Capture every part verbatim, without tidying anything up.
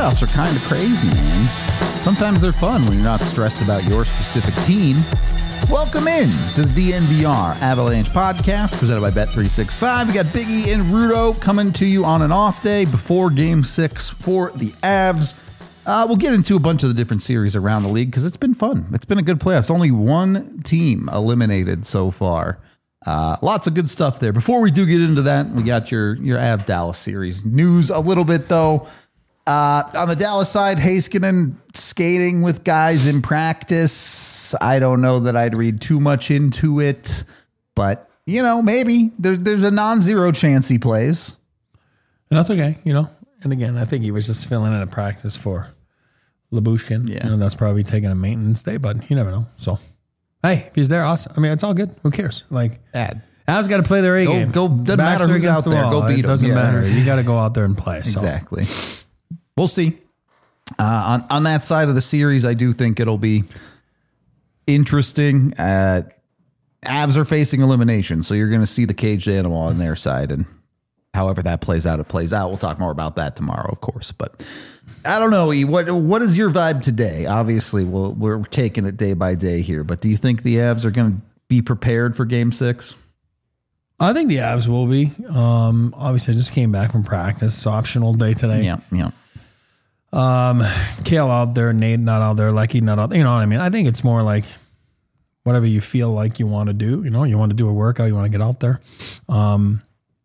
playoffs are kind of crazy, man. Sometimes they're fun when you're not stressed about your specific team. Welcome in to the D N V R Avalanche podcast presented by Bet three sixty-five. We got Biggie and Rudo coming to you on an off day before Game six for the Avs. Uh, we'll get into a bunch of the different series around the league because it's been fun. It's been a good playoffs. Only one team eliminated so far. Uh, lots of good stuff there. Before we do get into that, we got your, your Avs Dallas series news a little bit, though. Uh, on the Dallas side, Heiskanen skating with guys in practice. I don't know that I'd read too much into it, but, you know, maybe there, there's a non-zero chance he plays. And that's okay, you know. And again, I think he was just filling in a practice for Lyubushkin. Yeah. You know, that's probably taking a maintenance day, but you never know. So, hey, if he's there, awesome. I mean, it's all good. Who cares? Like, Bad. Avs got to play their A Go, game. go, doesn't Backs matter are who's against out the there. wall. Go beat It them. doesn't Yeah. matter. You got to go out there and play. So. Exactly. We'll see. Uh, on, on that side of the series, I do think it'll be interesting. Uh, Avs are facing elimination, so you're going to see the caged animal on their side, and however that plays out, it plays out. We'll talk more about that tomorrow, of course. But I don't know, E. What what is your vibe today? Obviously, we'll, we're taking it day by day here, but do you think the Avs are going to be prepared for Game Six? I think the Avs will be. Um, obviously, I just came back from practice. Optional day today. Yeah, yeah. Um, Kale out there, Nate not out there, Lecky not out there. You know what I mean? I think it's more like whatever you feel like you want to do. You know, you want to do a workout, you want to get out there. Um,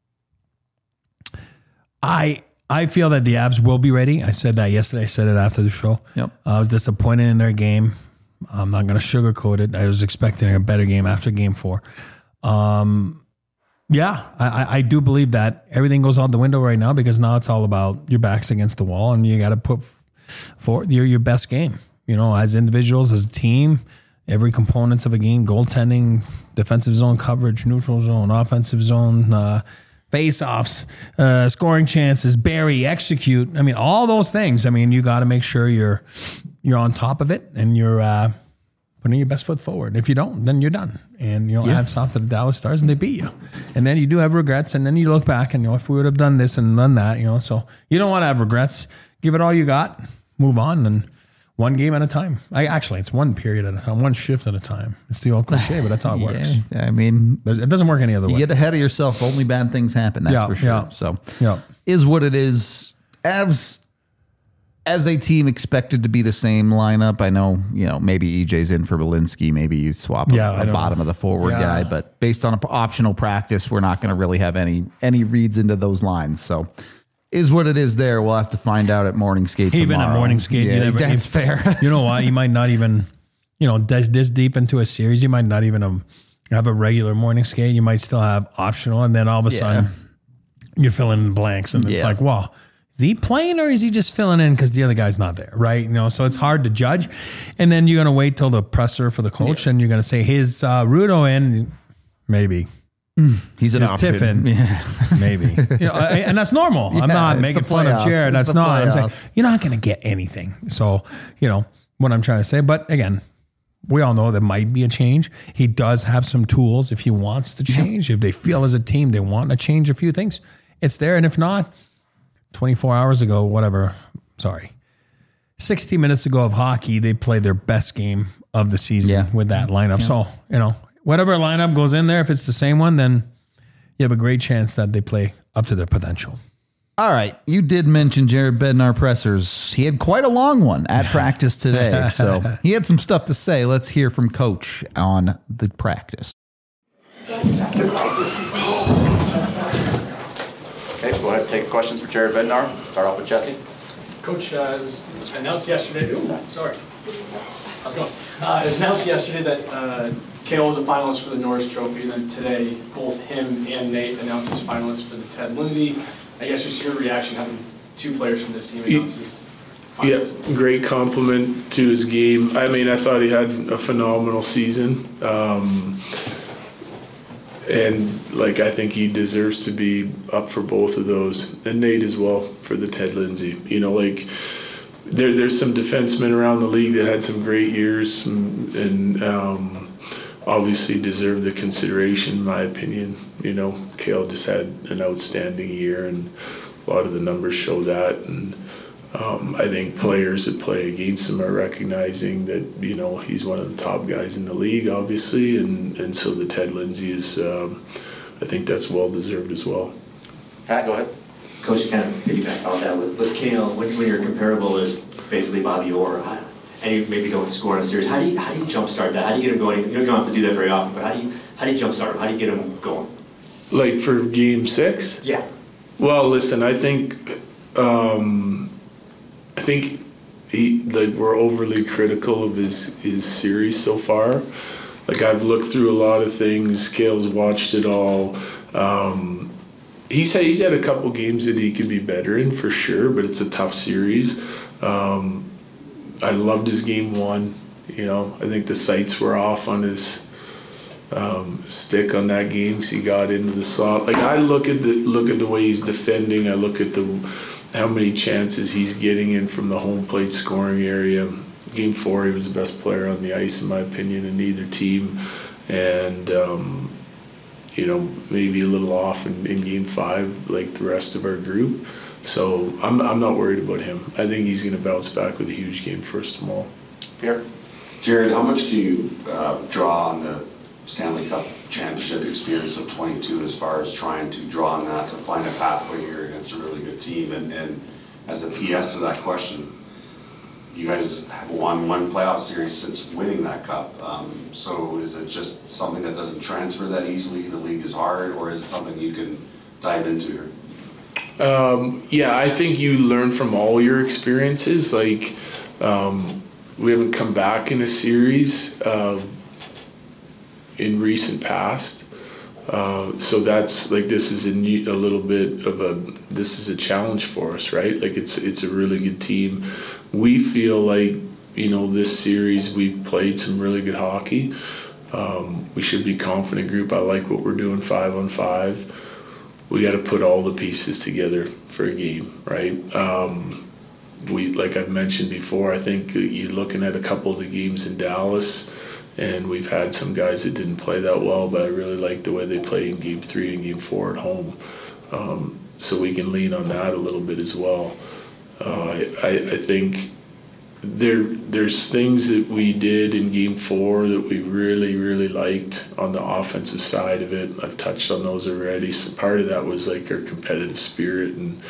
I I feel that the Avs will be ready. I said that yesterday. I said it after the show. Yep. I was disappointed in their game. I'm not going to sugarcoat it. I was expecting a better game after Game Four. Um, yeah, I, I do believe that everything goes out the window right now because now it's all about your backs against the wall and you got to put forward your your best game. You know, as individuals, as a team, every components of a game: goaltending, defensive zone coverage, neutral zone, offensive zone. Uh, Face-offs, uh, scoring chances, bury, execute. I mean, all those things. I mean, you got to make sure you're you're on top of it and you're uh, putting your best foot forward. If you don't, then you're done. And you know, yeah. hats off to the Dallas Stars, and they beat you. And then you do have regrets, and then you look back and you know, if we would have done this and done that, you know, so you don't want to have regrets. Give it all you got, move on, and one game at a time. I actually, it's one period at a time, one shift at a time. It's the old cliche, but that's how it works. Yeah, I mean, it doesn't work any other you way. get ahead of yourself. Only bad things happen. That's Yeah, for sure. yeah. So, Yeah. is what it is. Avs, as a team, expected to be the same lineup. I know, you know, maybe E J's in for Belinsky. Maybe you swap Yeah, a, I a don't bottom know. of the forward Yeah. guy. But based on an optional practice, we're not going to really have any any reads into those lines. So, is what it is there. We'll have to find out at morning skate Even tomorrow. at morning skate, yeah, you never, that's you, fair. You know what? You might not even, you know, this, this deep into a series, you might not even um, have a regular morning skate. You might still have optional, and then all of a Yeah. sudden you're filling in blanks, and it's Yeah. like, wow, is he playing or is he just filling in because the other guy's not there, right? You know, so it's hard to judge. And then you're going to wait till the presser for the coach, Yeah. and you're going to say his uh, Rudo in, maybe. He's an His option. Tiffin, Yeah. maybe, you know, and that's normal. Yeah, I'm not it's making the fun of playoffs. Jared. It's That's the not. I'm saying playoffs. you're not going to get anything. So, you know what I'm trying to say. But again, we all know there might be a change. He does have some tools if he wants to change. If they feel as a team they want to change a few things, it's there. And if not, twenty-four hours ago, whatever. Sorry, sixty minutes ago of hockey, they played their best game of the season Yeah. with that lineup. Yeah. So you know whatever lineup goes in there, if it's the same one, then you have a great chance that they play up to their potential. All right. You did mention Jared Bednar pressers. He had quite a long one at practice today. So he had some stuff to say. Let's hear from Coach on the practice. Okay, go ahead. Take questions for Jared Bednar. Start off with Jesse. Coach, uh, it was announced yesterday. Ooh, sorry. How's it going? Uh, it was announced yesterday that uh, Kale was a finalist for the Norris Trophy, and then today both him and Nate announced as finalists for the Ted Lindsay. I guess just your reaction having two players from this team announce as Yeah, finalists. great compliment to his game. I mean, I thought he had a phenomenal season. Um, and, like, I think he deserves to be up for both of those. And Nate as well for the Ted Lindsay. You know, like, there, there's some defensemen around the league that had some great years and, and um, obviously deserve the consideration, in my opinion. You know, Kale just had an outstanding year, and a lot of the numbers show that. And Um, I think players that play against him are recognizing that, you know, he's one of the top guys in the league, obviously, and, and so the Ted Lindsay is, um, I think that's well-deserved as well. Pat, go ahead. Coach, you kind of piggyback on that with, with Cale, when, when you're comparable as basically Bobby Orr, how- and you maybe don't score in a series, how do you how do you jumpstart that? How do you get him going? You don't have to do that very often, but how do you how do you jumpstart him? How do you get him going? Like for game six? Yeah. Well, listen, I think, um, I think he, like we're overly critical of his, his series so far. Like I've looked through a lot of things, Cale's watched it all. Um, he's had, he's had a couple games that he could be better in for sure, but it's a tough series. Um, I loved his game one. You know, I think the sights were off on his um, stick on that game because he got into the slot. Like I look at the look at the way he's defending. I look at the how many chances he's getting in from the home plate scoring area. Game four, he was the best player on the ice in my opinion in either team, and um, you know maybe a little off in, in game five like the rest of our group. So I'm I'm not worried about him. I think he's going to bounce back with a huge game first of all. Pierre? Jared, how much do you uh, draw on the Stanley Cup championship experience of twenty-two as far as trying to draw on that to find a pathway here against a really good team? And, and as a P S to that question, you guys have won one playoff series since winning that cup. Um, so is it just something that doesn't transfer that easily? The league is hard, or is it something you can dive into here? Um, yeah, I think you learn from all your experiences. Like, um, we haven't come back in a series uh, in recent past. Uh, so that's like, this is a, new, a little bit of a, this is a challenge for us, right? Like it's, it's a really good team. We feel like, you know, this series we've played some really good hockey. Um, we should be a confident group. I like what we're doing five on five. We got to put all the pieces together for a game, right? Um, we, like I've mentioned before, I think you're looking at a couple of the games in Dallas, and we've had some guys that didn't play that well, but I really like the way they play in game three and game four at home. Um, so we can lean on that a little bit as well. Uh, I, I think there there's things that we did in game four that we really, really liked on the offensive side of it. I've touched on those already. So part of that was like our competitive spirit and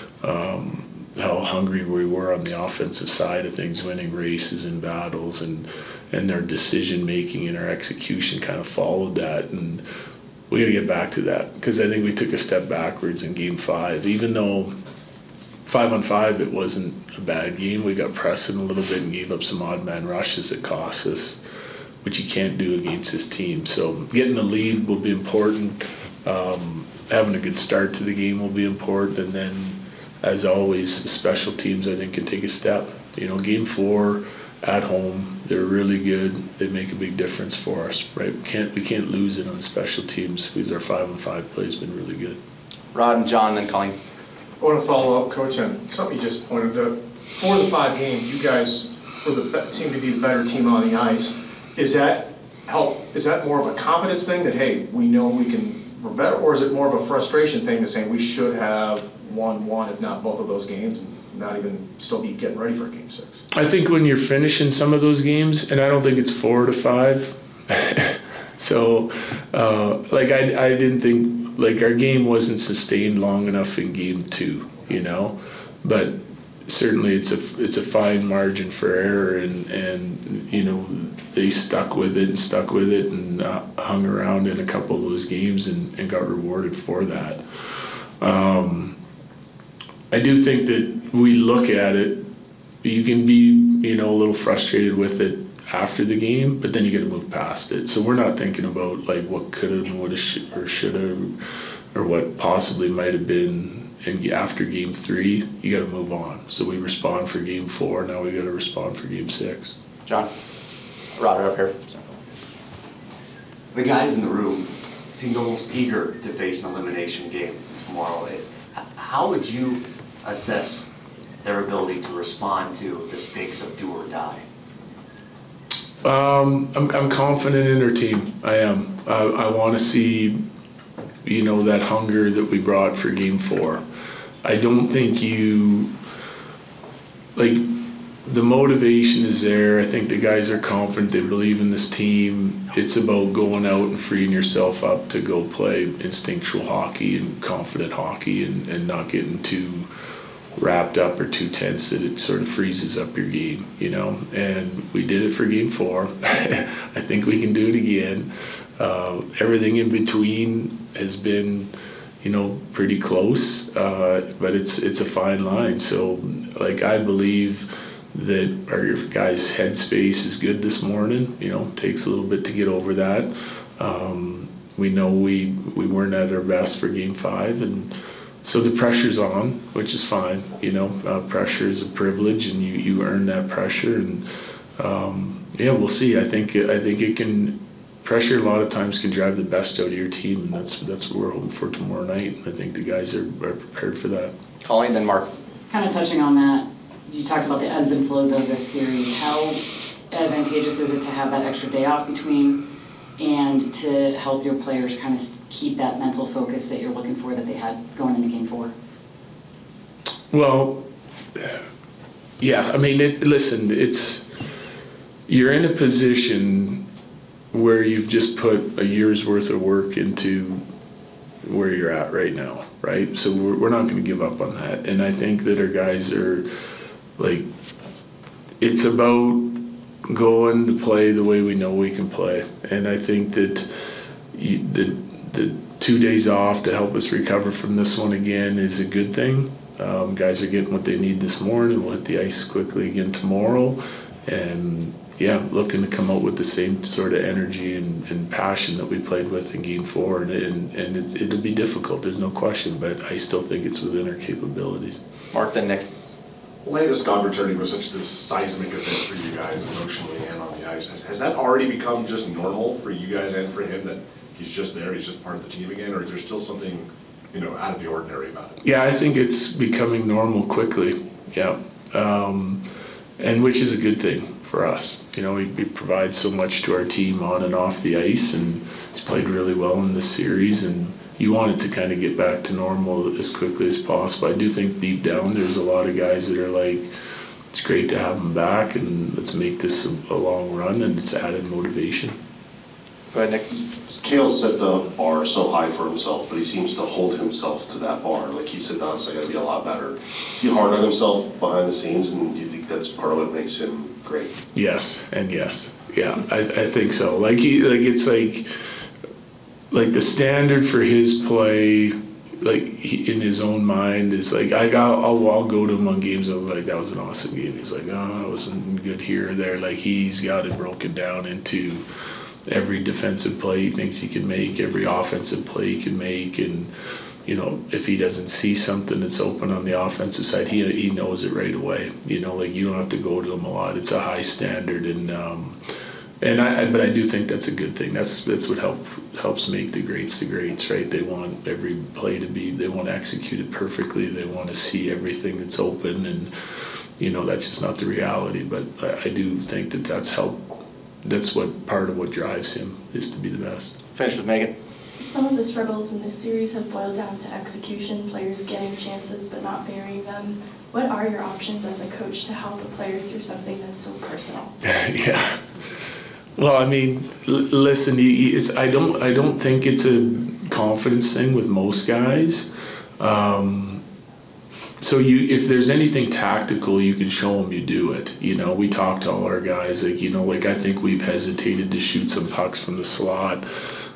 um, how hungry we were on the offensive side of things, winning races and battles, and and our decision making and our execution kind of followed that. And we got to get back to that because I think we took a step backwards in game five, even though five on five, it wasn't a bad game. We got pressing a little bit and gave up some odd man rushes that cost us, which you can't do against this team. So getting the lead will be important. Um, having a good start to the game will be important. And then, as always, the special teams, I think, can take a step. You know, game four at home, they're really good. They make a big difference for us, right? We can't, we can't lose it on special teams because our five on five play has been really good. Rod and John, then Colleen. I want to follow up, Coach, on something you just pointed out. Four of the five games, you guys were the seem to be the better team on the ice. Is that help? Is that more of a confidence thing that hey, we know we can we're better, or is it more of a frustration thing to say we should have won one, if not both of those games, and not even still be getting ready for game six? I think when you're finishing some of those games, and I don't think it's four to five. so, uh, like I, I didn't think. Like our game wasn't sustained long enough in game two, you know, but certainly it's a it's a fine margin for error, and and you know they stuck with it and stuck with it and uh, hung around in a couple of those games and, and got rewarded for that. Um, I do think that we look at it, you can be you know a little frustrated with it after the game, but then you got to move past it. So we're not thinking about like what could have and would have sh- or should have or what possibly might have been. And after game three, you got to move on. So we respond for game four. Now we got to respond for game six. John, Rod, right up here. The guys in the room seemed almost eager to face an elimination game tomorrow. How would you assess their ability to respond to the stakes of do or die? Um, I'm, I'm confident in our team. I am. I, I want to see, you know, that hunger that we brought for game four. I don't think you, like, the motivation is there. I think the guys are confident. They believe in this team. It's about going out and freeing yourself up to go play instinctual hockey and confident hockey, and, and not getting too wrapped up or too tense that it sort of freezes up your game, you know. And we did it for game four. I think we can do it again. Uh, everything in between has been, you know, pretty close, uh, but it's it's a fine line. So, like, I believe that our guys' headspace is good this morning. You know, takes a little bit to get over that. Um, we know we we weren't at our best for game five, and so the pressure's on, which is fine. You know, uh, pressure is a privilege, and you, you earn that pressure. And um, yeah, we'll see. I think I think it can. Pressure a lot of times can drive the best out of your team, and that's that's what we're hoping for tomorrow night. I think the guys are, are prepared for that. Colleen, then Mark. Kind of touching on that, you talked about the ebbs and flows of this series. How advantageous is it to have that extra day off between, and to help your players kind of keep that mental focus that you're looking for that they had going into game four? Well, yeah, I mean, it, listen, it's, you're in a position where you've just put a year's worth of work into where you're at right now, right? So we're, we're not going to give up on that. And I think that our guys are, like, it's about going to play the way we know we can play. And I think that you, the, the two days off to help us recover from this one again is a good thing. Um, guys are getting what they need this morning. We'll hit the ice quickly again tomorrow. And yeah, looking to come out with the same sort of energy and, and passion that we played with in game four. And, and, and it, it'll be difficult, there's no question, but I still think it's within our capabilities. Mark, then Nick. Landeskog returning was such this seismic event for you guys emotionally and on the ice. Has, has that already become just normal for you guys and for him, that he's just there, he's just part of the team again, or is there still something, you know, out of the ordinary about it? Yeah, I think it's becoming normal quickly, yeah. Um, and which is a good thing for us. You know, he, he provides so much to our team on and off the ice, and he's played really well in this series, and you want it to kind of get back to normal as quickly as possible. I do think deep down there's a lot of guys that are like, it's great to have him back, and let's make this a, a long run, and it's added motivation. Go ahead, Nick. Cale set the bar so high for himself, but he seems to hold himself to that bar. Like he said, no, I got to be a lot better. Is he hard on himself behind the scenes, and do you think that's part of what makes him great? Yes, and yes, yeah, I, I think so. Like he, like it's like, like the standard for his play, like he, in his own mind, is like I got, I'll, I'll go to him on games. I was like, that was an awesome game. He's like, oh, I wasn't good here or there. Like he's got it broken down into every defensive play he thinks he can make, every offensive play he can make, and you know, if he doesn't see something that's open on the offensive side, he he knows it right away. You know, like you don't have to go to him a lot. It's a high standard, and um, and I but I do think that's a good thing. That's that's what help helps make the greats the greats, right? They want every play to be, they want to execute it perfectly. They want to see everything that's open, and you know that's just not the reality. But I, I do think that that's help. That's what part of what drives him is to be the best. Finish with Megan. Some of the struggles in this series have boiled down to execution, players getting chances but not burying them. What are your options as a coach to help a player through something that's so personal? Yeah. Well, I mean, l- listen, it's I don't I don't think it's a confidence thing with most guys. Um, so you, if there's anything tactical you can show them, you do it. You know, we talk to all our guys, like, you know, like I think we've hesitated to shoot some pucks from the slot,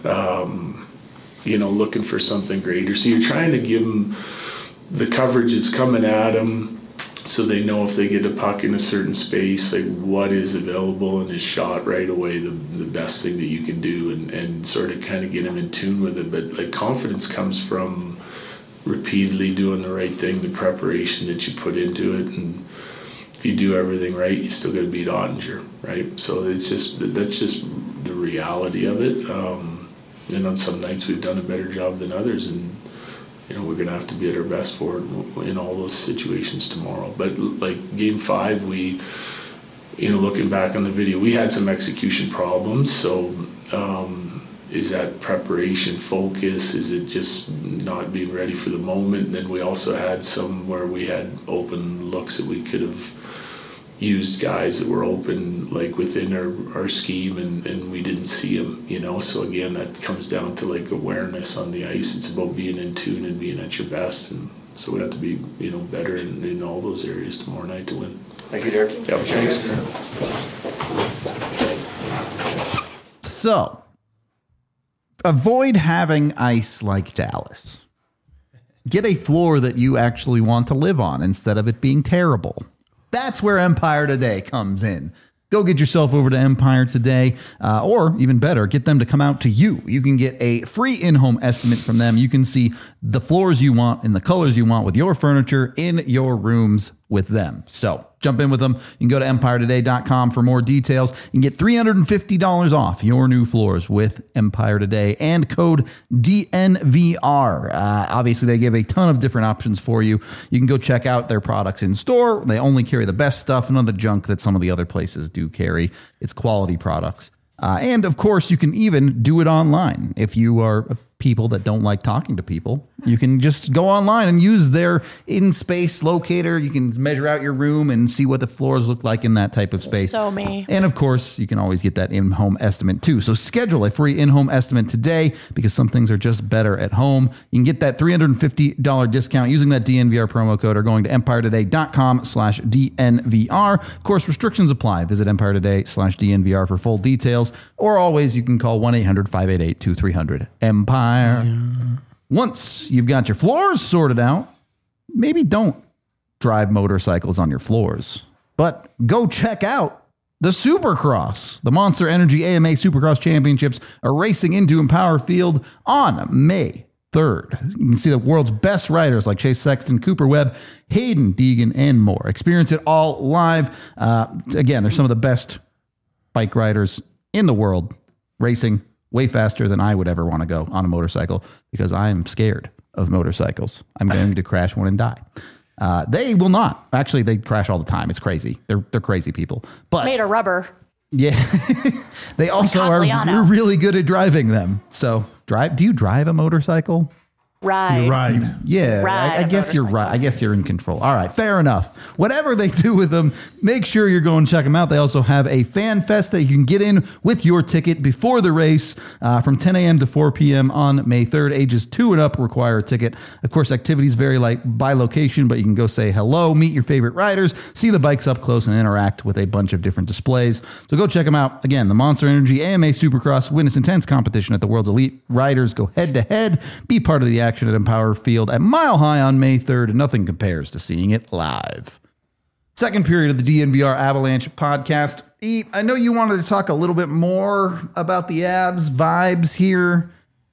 um, you know, looking for something greater. So you're trying to give them the coverage that's coming at them, so they know if they get a puck in a certain space, like what is available and is shot right away, the the best thing that you can do, and, and sort of kind of get them in tune with it. But like confidence comes from repeatedly doing the right thing, the preparation that you put into it, and if you do everything right, you still got to beat Ottinger, right? So it's just, that's just the reality of it. Um, and on some nights we've done a better job than others, and you know, we're going to have to be at our best for it in all those situations tomorrow. But like game five, we, you know, looking back on the video, we had some execution problems. So, um, is that preparation focus? Is it just not being ready for the moment? And then we also had some where we had open looks that we could have used guys that were open like within our, our scheme and, and we didn't see them, you know. So again, that comes down to like awareness on the ice. It's about being in tune and being at your best, and so we have to be, you know, better in, in all those areas tomorrow night to win. Thank you, Derek. Yep, thanks. So avoid having ice like Dallas. Get a floor that you actually want to live on instead of it being terrible. That's where Empire Today comes in. Go get yourself over to Empire Today, uh, or even better, get them to come out to you. You can get a free in-home estimate from them. You can see the floors you want and the colors you want with your furniture in your rooms with them. So jump in with them. You can go to empire today dot com for more details and get three hundred fifty dollars off your new floors with Empire Today and code D N V R. Uh, obviously, they give a ton of different options for you. You can go check out their products in store. They only carry the best stuff, none of the junk that some of the other places do carry. It's quality products. Uh, and of course, you can even do it online. If you are people that don't like talking to people, you can just go online and use their in-space locator. You can measure out your room and see what the floors look like in that type of space. So me. And of course, you can always get that in-home estimate too. So schedule a free in-home estimate today because some things are just better at home. You can get that three hundred fifty dollars discount using that D N V R promo code or going to empire today dot com slash D N V R. Of course, restrictions apply. Visit empire today slash D N V R for full details. Or always, you can call one eight hundred five eight eight two three zero zero. Empire. Yeah. Once you've got your floors sorted out, maybe don't drive motorcycles on your floors, but go check out the Supercross. The Monster Energy A M A Supercross Championships are racing into Empower Field on May third. You can see the world's best riders like Chase Sexton, Cooper Webb, Hayden Deegan, and more. Experience it all live. Uh, again, they're some of the best bike riders in the world racing way faster than I would ever want to go on a motorcycle because I am scared of motorcycles. I'm going to crash one and die. Uh, they will not. Actually, they crash all the time. It's crazy. They're they're crazy people. But made of rubber. Yeah. They also are really good at driving them. So drive. Do you drive a motorcycle? Ride. You ride. Yeah, Ride I, I guess you're right. I guess you're in control. All right, fair enough. Whatever they do with them, make sure you're going to check them out. They also have a fan fest that you can get in with your ticket before the race uh, from ten a.m. to four p.m. on May third. Ages two and up require a ticket. Of course, activities vary like by location, but you can go say hello, meet your favorite riders, see the bikes up close, and interact with a bunch of different displays. So go check them out. Again, the Monster Energy A M A Supercross. Witness intense competition at the world's elite riders. Go head to head. Be part of the action at Empower Field at Mile High on May third. Nothing compares to seeing it live. Second period of the D N V R Avalanche podcast. E, I know you wanted to talk a little bit more about the Avs vibes here.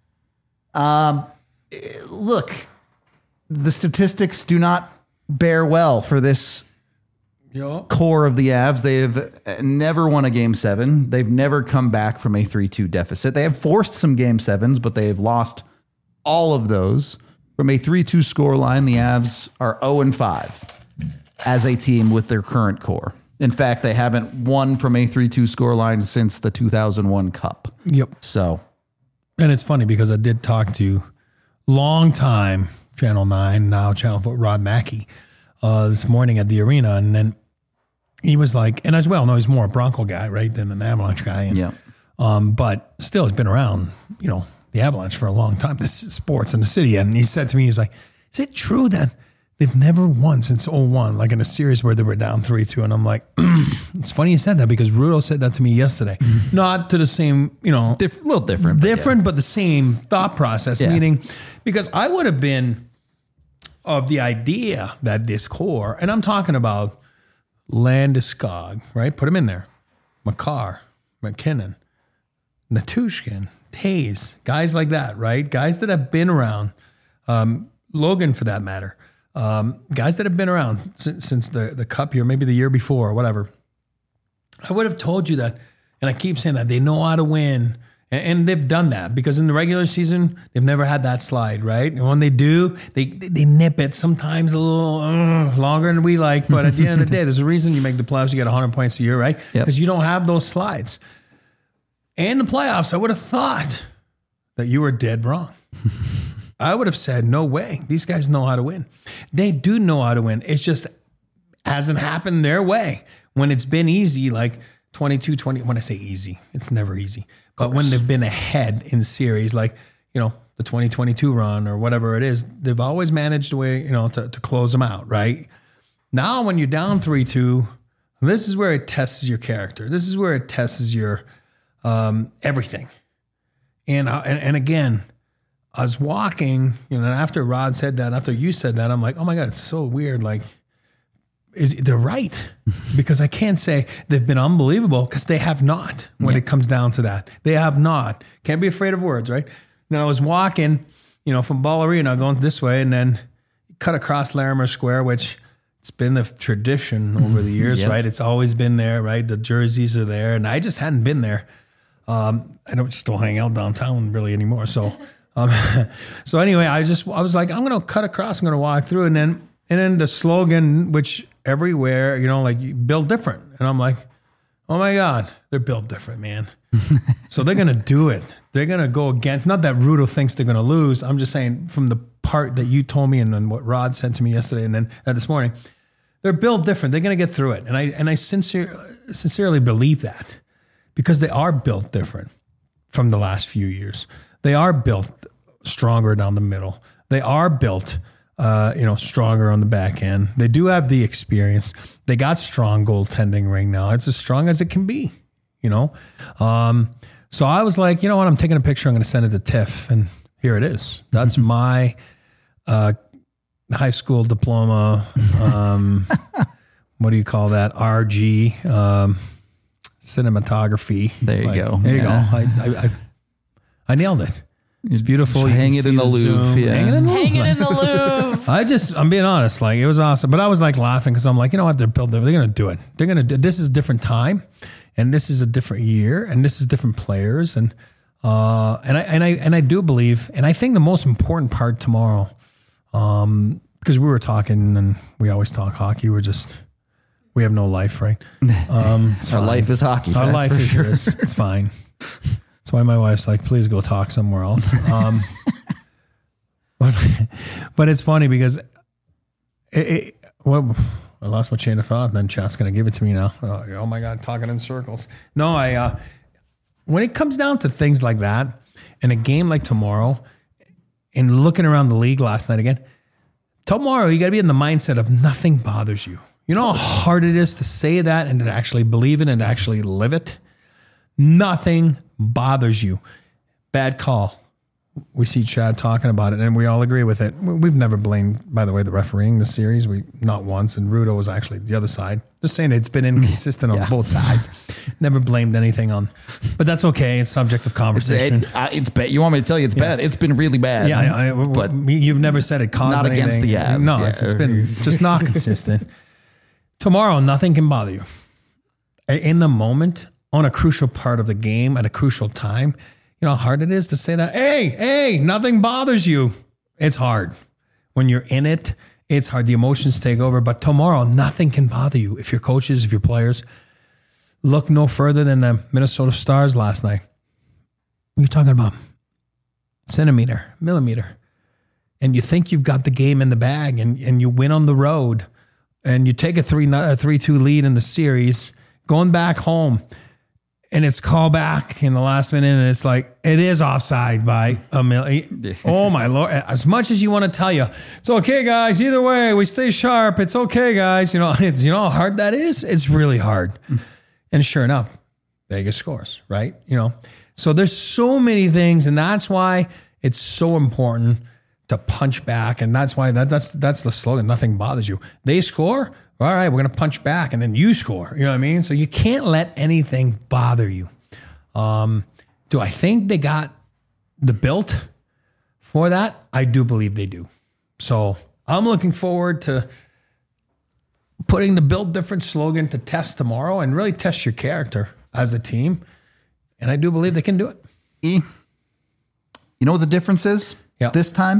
Um, look, the statistics do not bear well for this yeah. core of the Avs. They have never won a game seven. They've never come back from a three two deficit. They have forced some game sevens, but they have lost all of those. From a three two scoreline, the Avs are oh and five as a team with their current core. In fact, they haven't won from a three two scoreline since the two thousand one Cup. Yep. So, and it's funny because I did talk to long time Channel nine, now Channel four, Rod Mackey, uh, this morning at the arena. And then he was like, and as well, no, he's more a Bronco guy, right, than an Avalanche guy. And, yeah. Um, but still, he's been around, you know, the Avalanche for a long time, this is sports in the city. And he said to me, he's like, is it true that they've never won since oh one, like in a series where they were down three two? And I'm like, it's funny you said that because Rudo said that to me yesterday. Mm-hmm. Not to the same, you know. Dif- a little different. Different, but, yeah. but the same thought process, yeah. meaning because I would have been of the idea that this core, and I'm talking about Landeskog, right? Put him in there. Makar, McKinnon, Natushkin, Hayes, guys like that, right? Guys that have been around, um, Logan for that matter, um, guys that have been around since, since the, the Cup year, maybe the year before or whatever. I would have told you that, and I keep saying that, they know how to win, and, and they've done that because in the regular season, they've never had that slide, right? And when they do, they they nip it sometimes a little uh, longer than we like, but at the end of the day, there's a reason you make the playoffs, you get one hundred points a year, right? Because yep. you don't have those slides. And the playoffs, I would have thought that you were dead wrong. I would have said, no way. These guys know how to win. They do know how to win. It just hasn't happened their way. When it's been easy, like twenty-two twenty, when I say easy, it's never easy. But when they've been ahead in series, like, you know, the twenty twenty-two run or whatever it is, they've always managed a way, you know, to, to close them out, right? Now, when you're down three two, this is where it tests your character. This is where it tests your um, everything. And, uh, and and again, I was walking, you know, after Rod said that, after you said that, I'm like, oh my God, it's so weird. Like, is they're right, because I can't say they've been unbelievable, because they have not. When yeah. it comes down to that, they have not. Can't be afraid of words, right? Now I was walking, you know, from Ball Arena going this way, and then cut across Larimer Square, which it's been the tradition over the years, yep. right? It's always been there, right? The jerseys are there, and I just hadn't been there. Um, I don't just don't hang out downtown really anymore. So, um, so anyway, I just I was like, I'm going to cut across, I'm going to walk through, and then and then the slogan, which everywhere, you know, like, you build different. And I'm like, oh my God, they're built different, man. So they're going to do it. They're going to go against, not that Rudo thinks they're going to lose. I'm just saying from the part that you told me and then what Rod said to me yesterday and then uh, this morning, they're built different. They're going to get through it. And I, and I sincere, sincerely believe that, because they are built different from the last few years. They are built stronger down the middle. They are built Uh, you know, stronger on the back end. They do have the experience. They got strong goaltending right now. It's as strong as it can be, you know? Um, so I was like, you know what? I'm taking a picture. I'm going to send it to Tiff. And here it is. That's my uh, high school diploma. Um, what do you call that? R G, um, cinematography. There you like, go. There you yeah. go. I, I, I, I nailed it. It's beautiful. Hang it in the Louvre. Yeah. Hang it in the Hang it in the Louvre. I just, I'm being honest, like, it was awesome. But I was like laughing, because I'm like, you know what? They're built, they're going to do it. They're going to do, this is a different time, and this is a different year, and this is different players. And, uh, and I, and I, and I do believe, and I think the most important part tomorrow, um, because we were talking and we always talk hockey. We're just, we have no life, right? Um, Our life is hockey. Our life for is sure. this. It's fine. That's why my wife's like, please go talk somewhere else. Um, but it's funny because it, it, well, I lost my chain of thought, and then chat's going to give it to me now. Oh, oh my God, talking in circles. No, I, uh, when it comes down to things like that, and a game like tomorrow, and looking around the league last night again, tomorrow you got to be in the mindset of nothing bothers you. You know how hard it is to say that and to actually believe it and to actually live it? Nothing bothers you. Bad call. We see Chad talking about it, and we all agree with it. We've never blamed, by the way, the refereeing this series. We not once, and Rudo was actually the other side. Just saying it's been inconsistent yeah. on both sides. Never blamed anything on, but that's okay. It's subject of conversation. It's, it, uh, it's bad. You want me to tell you it's yeah. bad? It's been really bad. Yeah, I, I, but you've never said it caused not anything. Against the Avs. No, yeah. it's, it's been just not consistent. Tomorrow, nothing can bother you. In the moment, on a crucial part of the game at a crucial time. You know how hard it is to say that, hey, hey, nothing bothers you. It's hard. When you're in it, it's hard. The emotions take over. But tomorrow, nothing can bother you. If your coaches, if your players, look no further than the Minnesota Stars last night. What are you talking about? Centimeter, millimeter. And you think you've got the game in the bag, and, and you win on the road, and you take a three a three two lead in the series, going back home. And it's called back in the last minute, and it's like, it is offside by a million. Oh, my Lord. As much as you want to tell you, it's okay, guys. Either way, we stay sharp. It's okay, guys. You know, it's, you know how hard that is? It's really hard. And sure enough, Vegas scores, right? You know, so there's so many things, and that's why it's so important to punch back. And that's why that, that's that's the slogan. Nothing bothers you. They score. All right, we're going to punch back, and then you score. You know what I mean? So you can't let anything bother you. Um, do I think they got the built for that? I do believe they do. So I'm looking forward to putting the Build Different slogan to test tomorrow and really test your character as a team. And I do believe they can do it. E, you know what the difference is yeah. this time?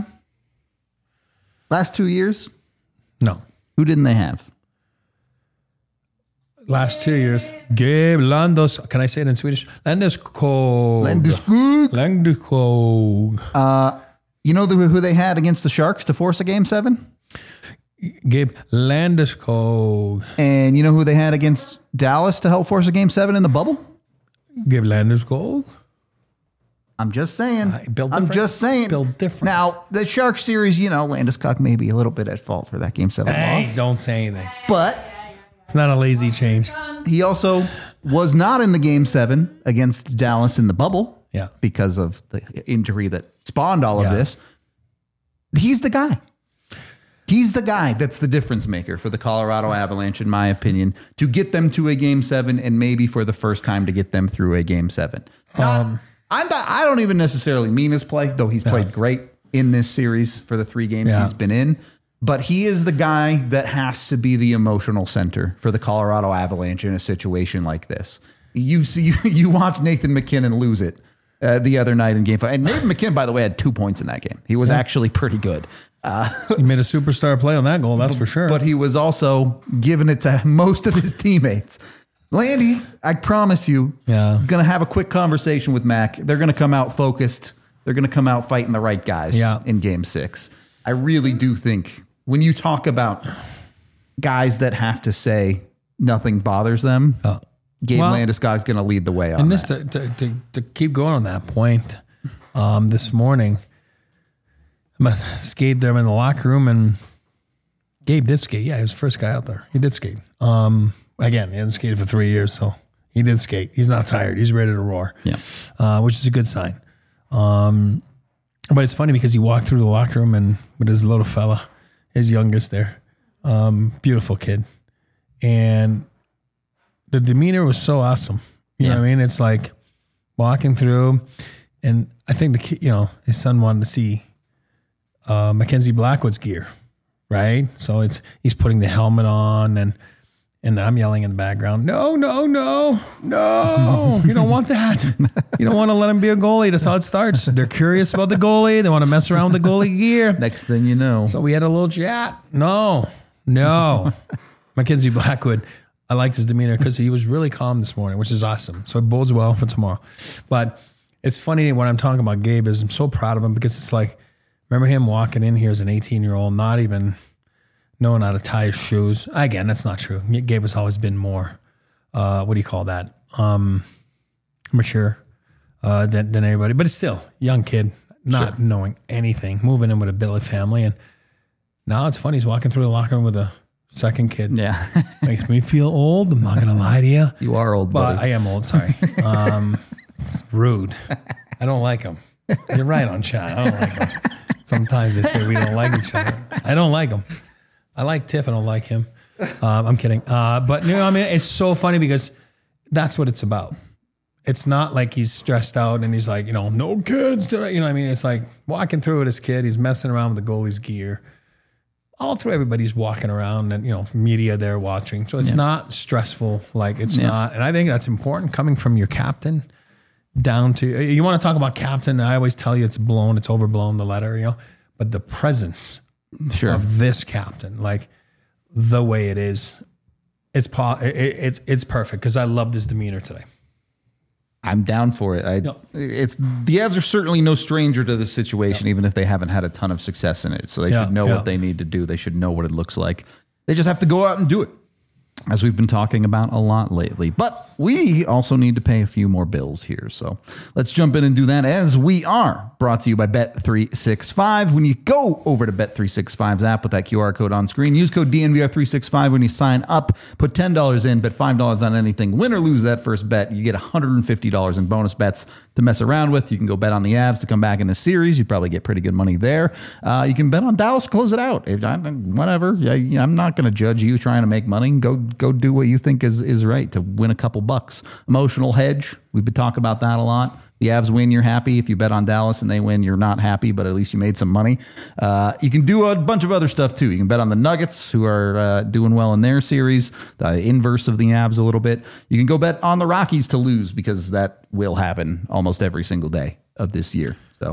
Last two years? No. Who didn't they have? last two years, Gabe Landos. Can I say it in Swedish? Landeskog. Landeskog. Landeskog. Uh, you know the, who they had against the Sharks to force a game seven? Gabe Landeskog. And you know who they had against Dallas to help force a game seven in the bubble? Gabe Landeskog. I'm just saying. Uh, build I'm just saying. Build different. Now, the Shark series, you know, Landeskog may be a little bit at fault for that game seven hey, loss. Don't say anything. But it's not a lazy change. He also was not in the game seven against Dallas in the bubble. Yeah. Because of the injury that spawned all yeah. of this. He's the guy. He's the guy that's the difference maker for the Colorado Avalanche, in my opinion, to get them to a game seven and maybe for the first time to get them through a game seven. Not, um, I'm not, I don't even necessarily mean his play, though he's played yeah. great in this series for the three games yeah. he's been in. But he is the guy that has to be the emotional center for the Colorado Avalanche in a situation like this. You see, you watch Nathan MacKinnon lose it uh, the other night in game five. And Nathan MacKinnon, by the way, had two points in that game. He was yeah. actually pretty good. Uh, he made a superstar play on that goal, that's for sure. But he was also giving it to most of his teammates. Landy, I promise you, yeah. going to have a quick conversation with Mac. They're going to come out focused. They're going to come out fighting the right guys yeah. in game six. I really do think when you talk about guys that have to say nothing bothers them, uh, Gabe well, Landeskog's going to lead the way on and that. this to, to, to, to keep going on that point, um, this morning, I skated there in the locker room, and Gabe did skate. Yeah, he was the first guy out there. He did skate. Um, again, he hasn't skated for three years, so he did skate. He's not tired. He's ready to roar. Yeah, uh, which is a good sign. Um, but it's funny because he walked through the locker room and with his little fella, his youngest there, um, beautiful kid, and the demeanor was so awesome. You yeah. know what I mean? It's like walking through, and I think the kid, you know, his son wanted to see Uh, Mackenzie Blackwood's gear, right? So it's he's putting the helmet on, and and I'm yelling in the background, no, no, no, no, you don't want that. You don't want to let him be a goalie. That's how it starts. They're curious about the goalie. They want to mess around with the goalie gear. Next thing you know. So we had a little chat. No, no. Mackenzie Blackwood, I liked his demeanor because he was really calm this morning, which is awesome. So it bodes well for tomorrow. But it's funny when I'm talking about Gabe is I'm so proud of him because it's like, remember him walking in here as an eighteen-year-old, not even knowing how to tie his shoes. Again, that's not true. Gabe has always been more, uh, what do you call that? Um, mature uh, than, than everybody. But it's still young kid, not sure. knowing anything, moving in with a billet family. And now it's funny. He's walking through the locker room with a second kid. Yeah. Makes me feel old. I'm not going to lie to you. You are old, but buddy. I am old, sorry. Um, it's rude. I don't like him. You're right on chat. I don't like him. Sometimes they say we don't like each other. I don't like him. I like Tiff. I don't like him. Um, I'm kidding. Uh, but you know, I mean, it's so funny because that's what it's about. It's not like he's stressed out and he's like, you know, no kids. You know what I mean? It's like walking through with his kid. He's messing around with the goalie's gear. All through everybody's walking around and, you know, media there watching. So it's yeah. not stressful. Like it's yeah. not. And I think that's important coming from your captain. Down to, you want to talk about captain, I always tell you it's blown, it's overblown, the letter, you know, but the presence sure. of this captain, like the way it is, it's po- it, it's it's perfect because I love this demeanor today. I'm down for it. I, no. It's the Avs are certainly no stranger to this situation, no. even if they haven't had a ton of success in it. So they yeah, should know yeah. what they need to do. They should know what it looks like. They just have to go out and do it, as we've been talking about a lot lately. But we also need to pay a few more bills here. So let's jump in and do that as we are brought to you by Bet three sixty-five. When you go over to Bet three sixty-five's app with that Q R code on screen, use code D N V R three sixty-five when you sign up. Put ten dollars in, bet five dollars on anything. Win or lose that first bet, you get one hundred fifty dollars in bonus bets to mess around with. You can go bet on the Avs to come back in the series. You probably get pretty good money there. Uh, you can bet on Dallas, close it out. If, I, whatever. I, I'm not going to judge you trying to make money. Go go do what you think is, is right to win a couple bucks. Emotional hedge. We've been talking about that a lot. The Avs win, you're happy. If you bet on Dallas and they win, you're not happy, but at least you made some money. Uh, you can do a bunch of other stuff too. You can bet on the Nuggets, who are uh, doing well in their series, the inverse of the Avs a little bit. You can go bet on the Rockies to lose because that will happen almost every single day of this year. So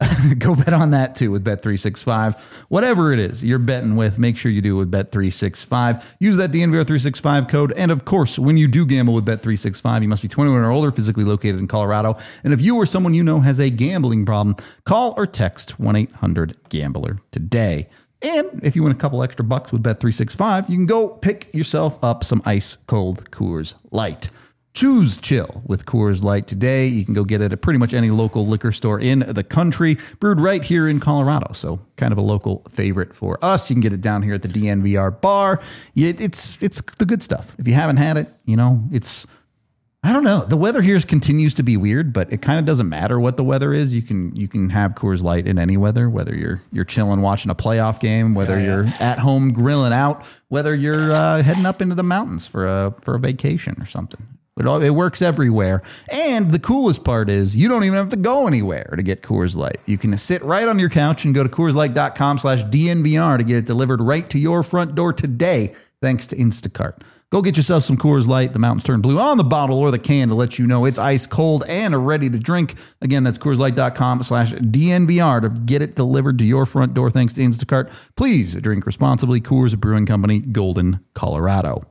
Go bet on that too with Bet three sixty-five. Whatever it is you're betting with, make sure you do it with Bet three sixty-five. Use that D N V R three sixty-five code. And of course, when you do gamble with Bet three sixty-five, you must be twenty-one or older, physically located in Colorado. And if you or someone you know has a gambling problem, call or text one eight hundred gambler today. And if you win a couple extra bucks with Bet three sixty-five, you can go pick yourself up some ice cold Coors Light. Choose chill with Coors Light today. You can go get it at pretty much any local liquor store in the country, brewed right here in Colorado. So kind of a local favorite for us. You can get it down here at the D N V R bar. It's it's the good stuff. If you haven't had it, you know, it's, I don't know. The weather here continues to be weird, but it kind of doesn't matter what the weather is. You can you can have Coors Light in any weather, whether you're you're chilling watching a playoff game, whether yeah, yeah. you're at home grilling out, whether you're uh, heading up into the mountains for a for a vacation or something. It, all, it works everywhere. And the coolest part is you don't even have to go anywhere to get Coors Light. You can sit right on your couch and go to CoorsLight.com slash DNVR to get it delivered right to your front door today, thanks to Instacart. Go get yourself some Coors Light. The mountains turn blue on the bottle or the can to let you know it's ice cold and are ready to drink. Again, that's CoorsLight.com slash DNVR to get it delivered to your front door, thanks to Instacart. Please drink responsibly. Coors Brewing Company, Golden, Colorado.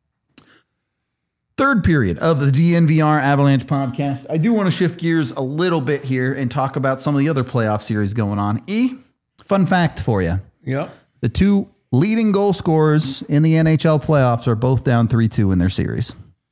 Third period of the D N V R Avalanche podcast. I do want to shift gears a little bit here and talk about some of the other playoff series going on. E, fun fact for you. Yep. The two leading goal scorers in the N H L playoffs are both down three two in their series.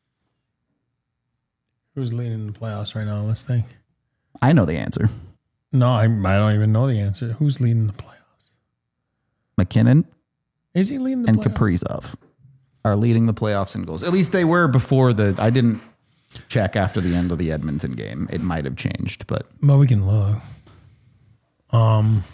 Who's leading the playoffs right now? Let's think. I know the answer. No, I, I don't even know the answer. Who's leading the playoffs? McKinnon. Is he leading the and playoffs? And Kaprizov are leading the playoffs in goals. At least they were before the... I didn't check after the end of the Edmonton game. It might have changed, but... Well, we can look. Um.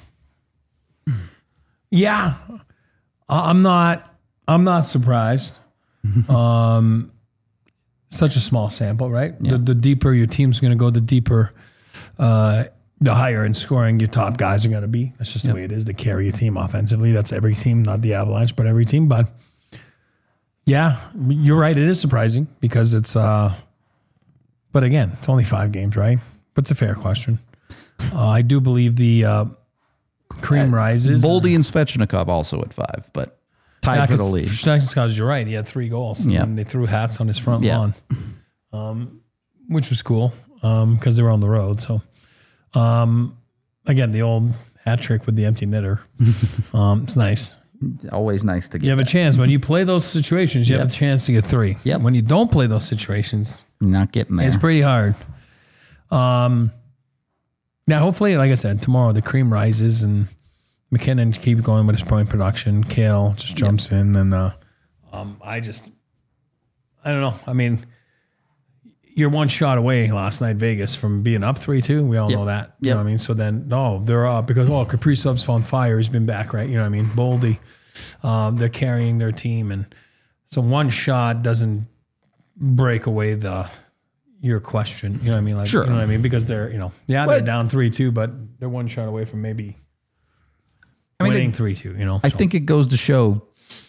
Yeah. I'm not... I'm not surprised. um, such a small sample, right? Yeah. The, the deeper your team's going to go, the deeper... Uh, the higher in scoring your top guys are going to be. That's just yep. the way it is to carry your team offensively. That's every team, not the Avalanche, but every team. But... Yeah, you're right. It is surprising because it's, uh, but again, it's only five games, right? But it's a fair question. Uh, I do believe the uh, cream uh, rises. Boldy and Svechnikov also at five, but tied yeah, for the lead. Svechnikov, you're right. He had three goals. Yeah. And they threw hats on his front yeah. lawn, um, which was cool because um, they were on the road. So, um, again, the old hat trick with the empty netter. um, it's nice. Always nice to get. You have that. a chance when you play those situations. You yep. have a chance to get three. Yep. When you don't play those situations, not getting there. It's pretty hard. Um. Now, hopefully, like I said, tomorrow the cream rises and McKinnon keeps going with his point production. Kale just jumps yep. in, and uh, um, I just, I don't know. I mean, you're one shot away last night, Vegas, from being up three two. We all yep. know that. You yep. know what I mean? So then, no, they're up because, oh, Kaprizov's on fire. He's been back, right? You know what I mean? Boldy, um, they're carrying their team. And so one shot doesn't break away the your question. You know what I mean? Like, sure. You know what I mean? Because they're, you know, yeah, but, they're down three two, but they're one shot away from maybe I mean, winning three two, you know? I so. think it goes to show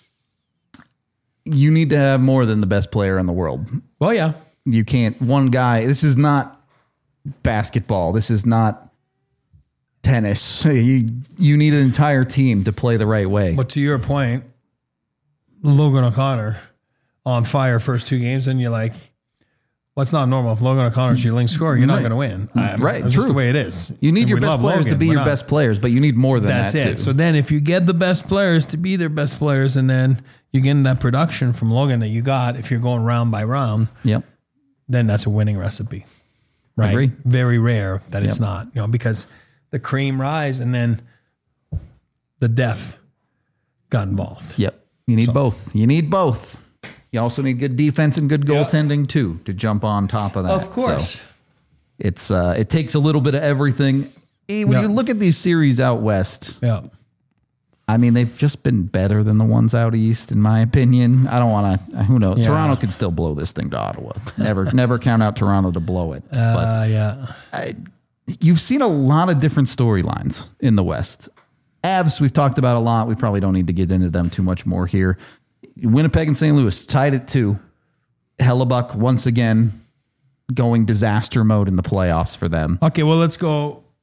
you need to have more than the best player in the world. Well, yeah. You can't, one guy, this is not basketball. This is not tennis. You, you need an entire team to play the right way. But to your point, Logan O'Connor on fire first two games, and you're like, well, it's not normal. If Logan O'Connor's your leading scorer, you're not right. going to win. I, right, That's true. just the way it is. You need and your best players Logan, to be your not. best players, but you need more than That's that it. too. So then if you get the best players to be their best players, and then you get that production from Logan that you got, if you're going round by round, yep. then that's a winning recipe. Right? Agree. Very rare that yep. it's not, you know, because the cream rise and then the depth got involved. Yep. You need So- both. You need both. You also need good defense and good goaltending too to jump on top of that. Of course. So it's uh, it takes a little bit of everything. E, when Yeah. you look at these series out west, Yeah. I mean, they've just been better than the ones out east, in my opinion. I don't want to. Who knows? Yeah. Toronto could still blow this thing to Ottawa. Never, never count out Toronto to blow it. Uh, but yeah. I, you've seen a lot of different storylines in the West. Avs, we've talked about a lot. We probably don't need to get into them too much more here. Winnipeg and Saint Louis tied at two. Hellebuck once again going disaster mode in the playoffs for them. Okay, well, let's go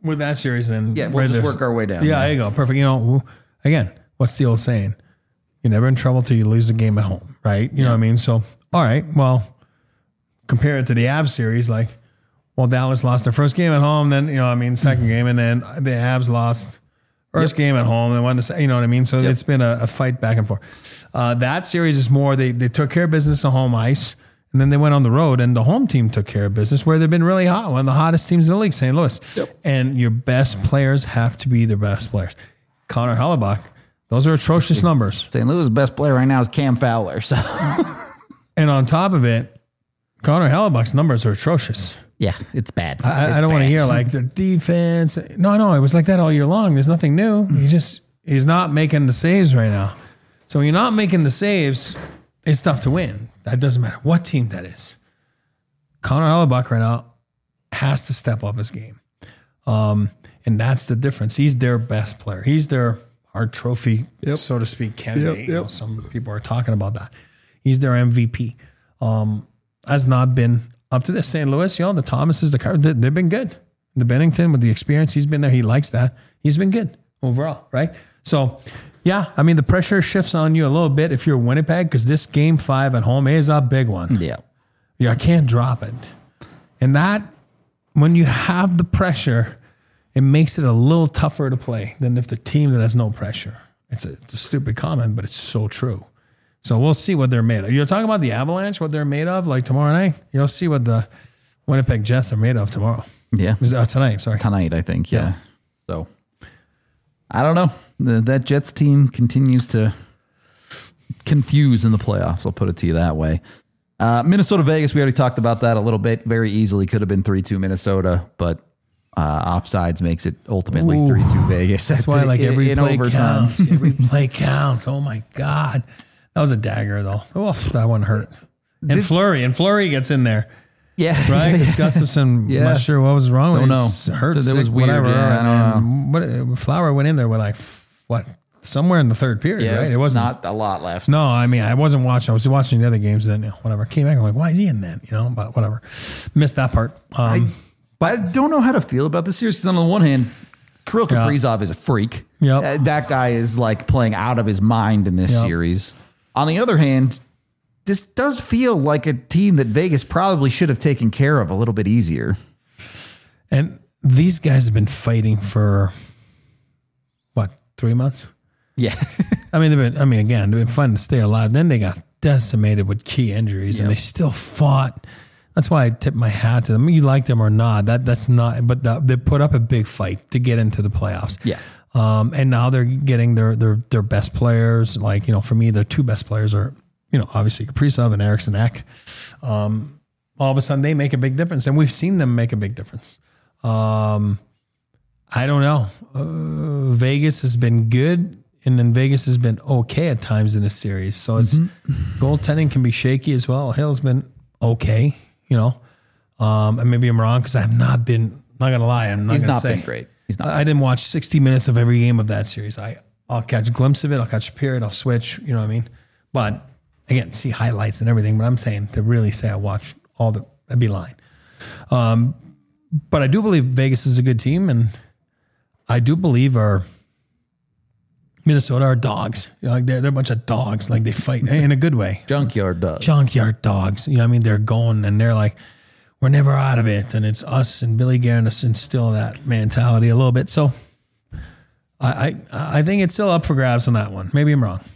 with that series, then Yeah, we'll right just there's- work our way down. Yeah, there you go. Perfect. You know, again, what's the old saying? You're never in trouble till you lose the game at home, right? You know what I mean? So, all right, well, compare it to the Avs series, like, well, Dallas lost their first game at home, then, you know what I mean, second game, and then the Avs lost first Yep. game at home, and won the se- you know what I mean? So Yep. it's been a, a fight back and forth. Uh, that series is more, they, they took care of business on home ice, and then they went on the road, and the home team took care of business where they've been really hot, one of the hottest teams in the league, Saint Louis. Yep. And your best players have to be their best players. Connor Hellebuck, those are atrocious numbers. Saint Louis' best player right now is Cam Fowler. So, And on top of it, Connor Hellebuck's numbers are atrocious. yeah, it's bad. I, It's I don't want to bad. hear like the defense. No, no, it was like that all year long. There's nothing new. He just he's not making the saves right now. So when you're not making the saves, it's tough to win. That doesn't matter what team that is. Connor Hellebuck right now has to step up his game, um, and that's the difference. He's their best player. He's their Hart Trophy, so to speak, candidate. Yep, You know, yep. some people are talking about that. He's their M V P. Um, has not been up to this. Saint Louis, you know, the Thomases, the Car- they- they've been good. The Bennington with the experience, he's been there. He likes that. He's been good overall, right? So, yeah, I mean, the pressure shifts on you a little bit if you're Winnipeg because this game five at home is a big one. Yeah. Yeah, I can't drop it. And that, when you have the pressure, it makes it a little tougher to play than if the team that has no pressure. It's a, it's a stupid comment, but it's so true. So we'll see what they're made of. You're talking about the Avalanche, what they're made of, like tomorrow night? You'll see what the Winnipeg Jets are made of tomorrow. Yeah. Is- uh, tonight, sorry. Tonight, I think. Yeah. Yeah. So, I don't know. The, that Jets team continues to confuse in the playoffs. I'll put it to you that way. Uh, Minnesota Vegas, we already talked about that a little bit. Very easily could have been three two Minnesota, but uh, offsides makes it ultimately Ooh. three two Vegas. That's why, like, In- every in play overtime. counts. Every play counts. Oh, my God. That was a dagger, though. Oh, that one hurt. And Did- Fleury. And Fleury gets in there. Yeah. Right? Because Gustafson, Yeah. not sure what was wrong with Don't him. know. He's hurt, That- that sick, was weird. whatever. Yeah, I don't and what, Flower went in there with, like, f- what, somewhere in the third period, Yeah, right? it It was wasn't. not a lot left. No, I mean, I wasn't watching. I was watching the other games then, you know, whatever. Came back, I'm like, why is he in that? You know, but whatever. Missed that part. Um, But I don't know how to feel about this series. 'Cause on the one hand, Kirill Yeah. Kaprizov is a freak. Yep. Uh, that guy is like playing out of his mind in this Yep. series. On the other hand, this does feel like a team that Vegas probably should have taken care of a little bit easier. and these guys have been fighting for, what, three months? Yeah. I mean, they've been, I mean, again, they've been fighting to stay alive. Then they got decimated with key injuries, and Yep. they still fought. That's why I tip my hat to them. You like them or not, that that's not. But the, they put up a big fight to get into the playoffs. Yeah. Um, and now they're getting their their their best players. Like, you know, for me, their two best players are, you know, obviously Kaprizov and Eriksson Ek. Um, all of a sudden, they make a big difference, and we've seen them make a big difference. Um, I don't know. Uh, Vegas has been good, and then Vegas has been okay at times in this series. So it's goaltending can be shaky as well. Hill's been okay, you know. Um, and maybe I'm wrong because I have not been. Not gonna lie, I'm not He's gonna not say been great. He's not. I, I didn't watch sixty minutes of every game of that series. I I'll catch a glimpse of it. I'll catch a period. I'll switch. You know what I mean? But again, see highlights and everything. But I'm saying to really say I watch all the that'd be lying. Um, but I do believe Vegas is a good team, and I do believe our Minnesota are dogs. You know, like they're they're a bunch of dogs. Like they fight in a good way. Junkyard dogs. Junkyard dogs. You know what I mean? They're going and they're like, we're never out of it. And it's us and Billy Guerin to instill that mentality a little bit. So I, I I think it's still up for grabs on that one. Maybe I'm wrong.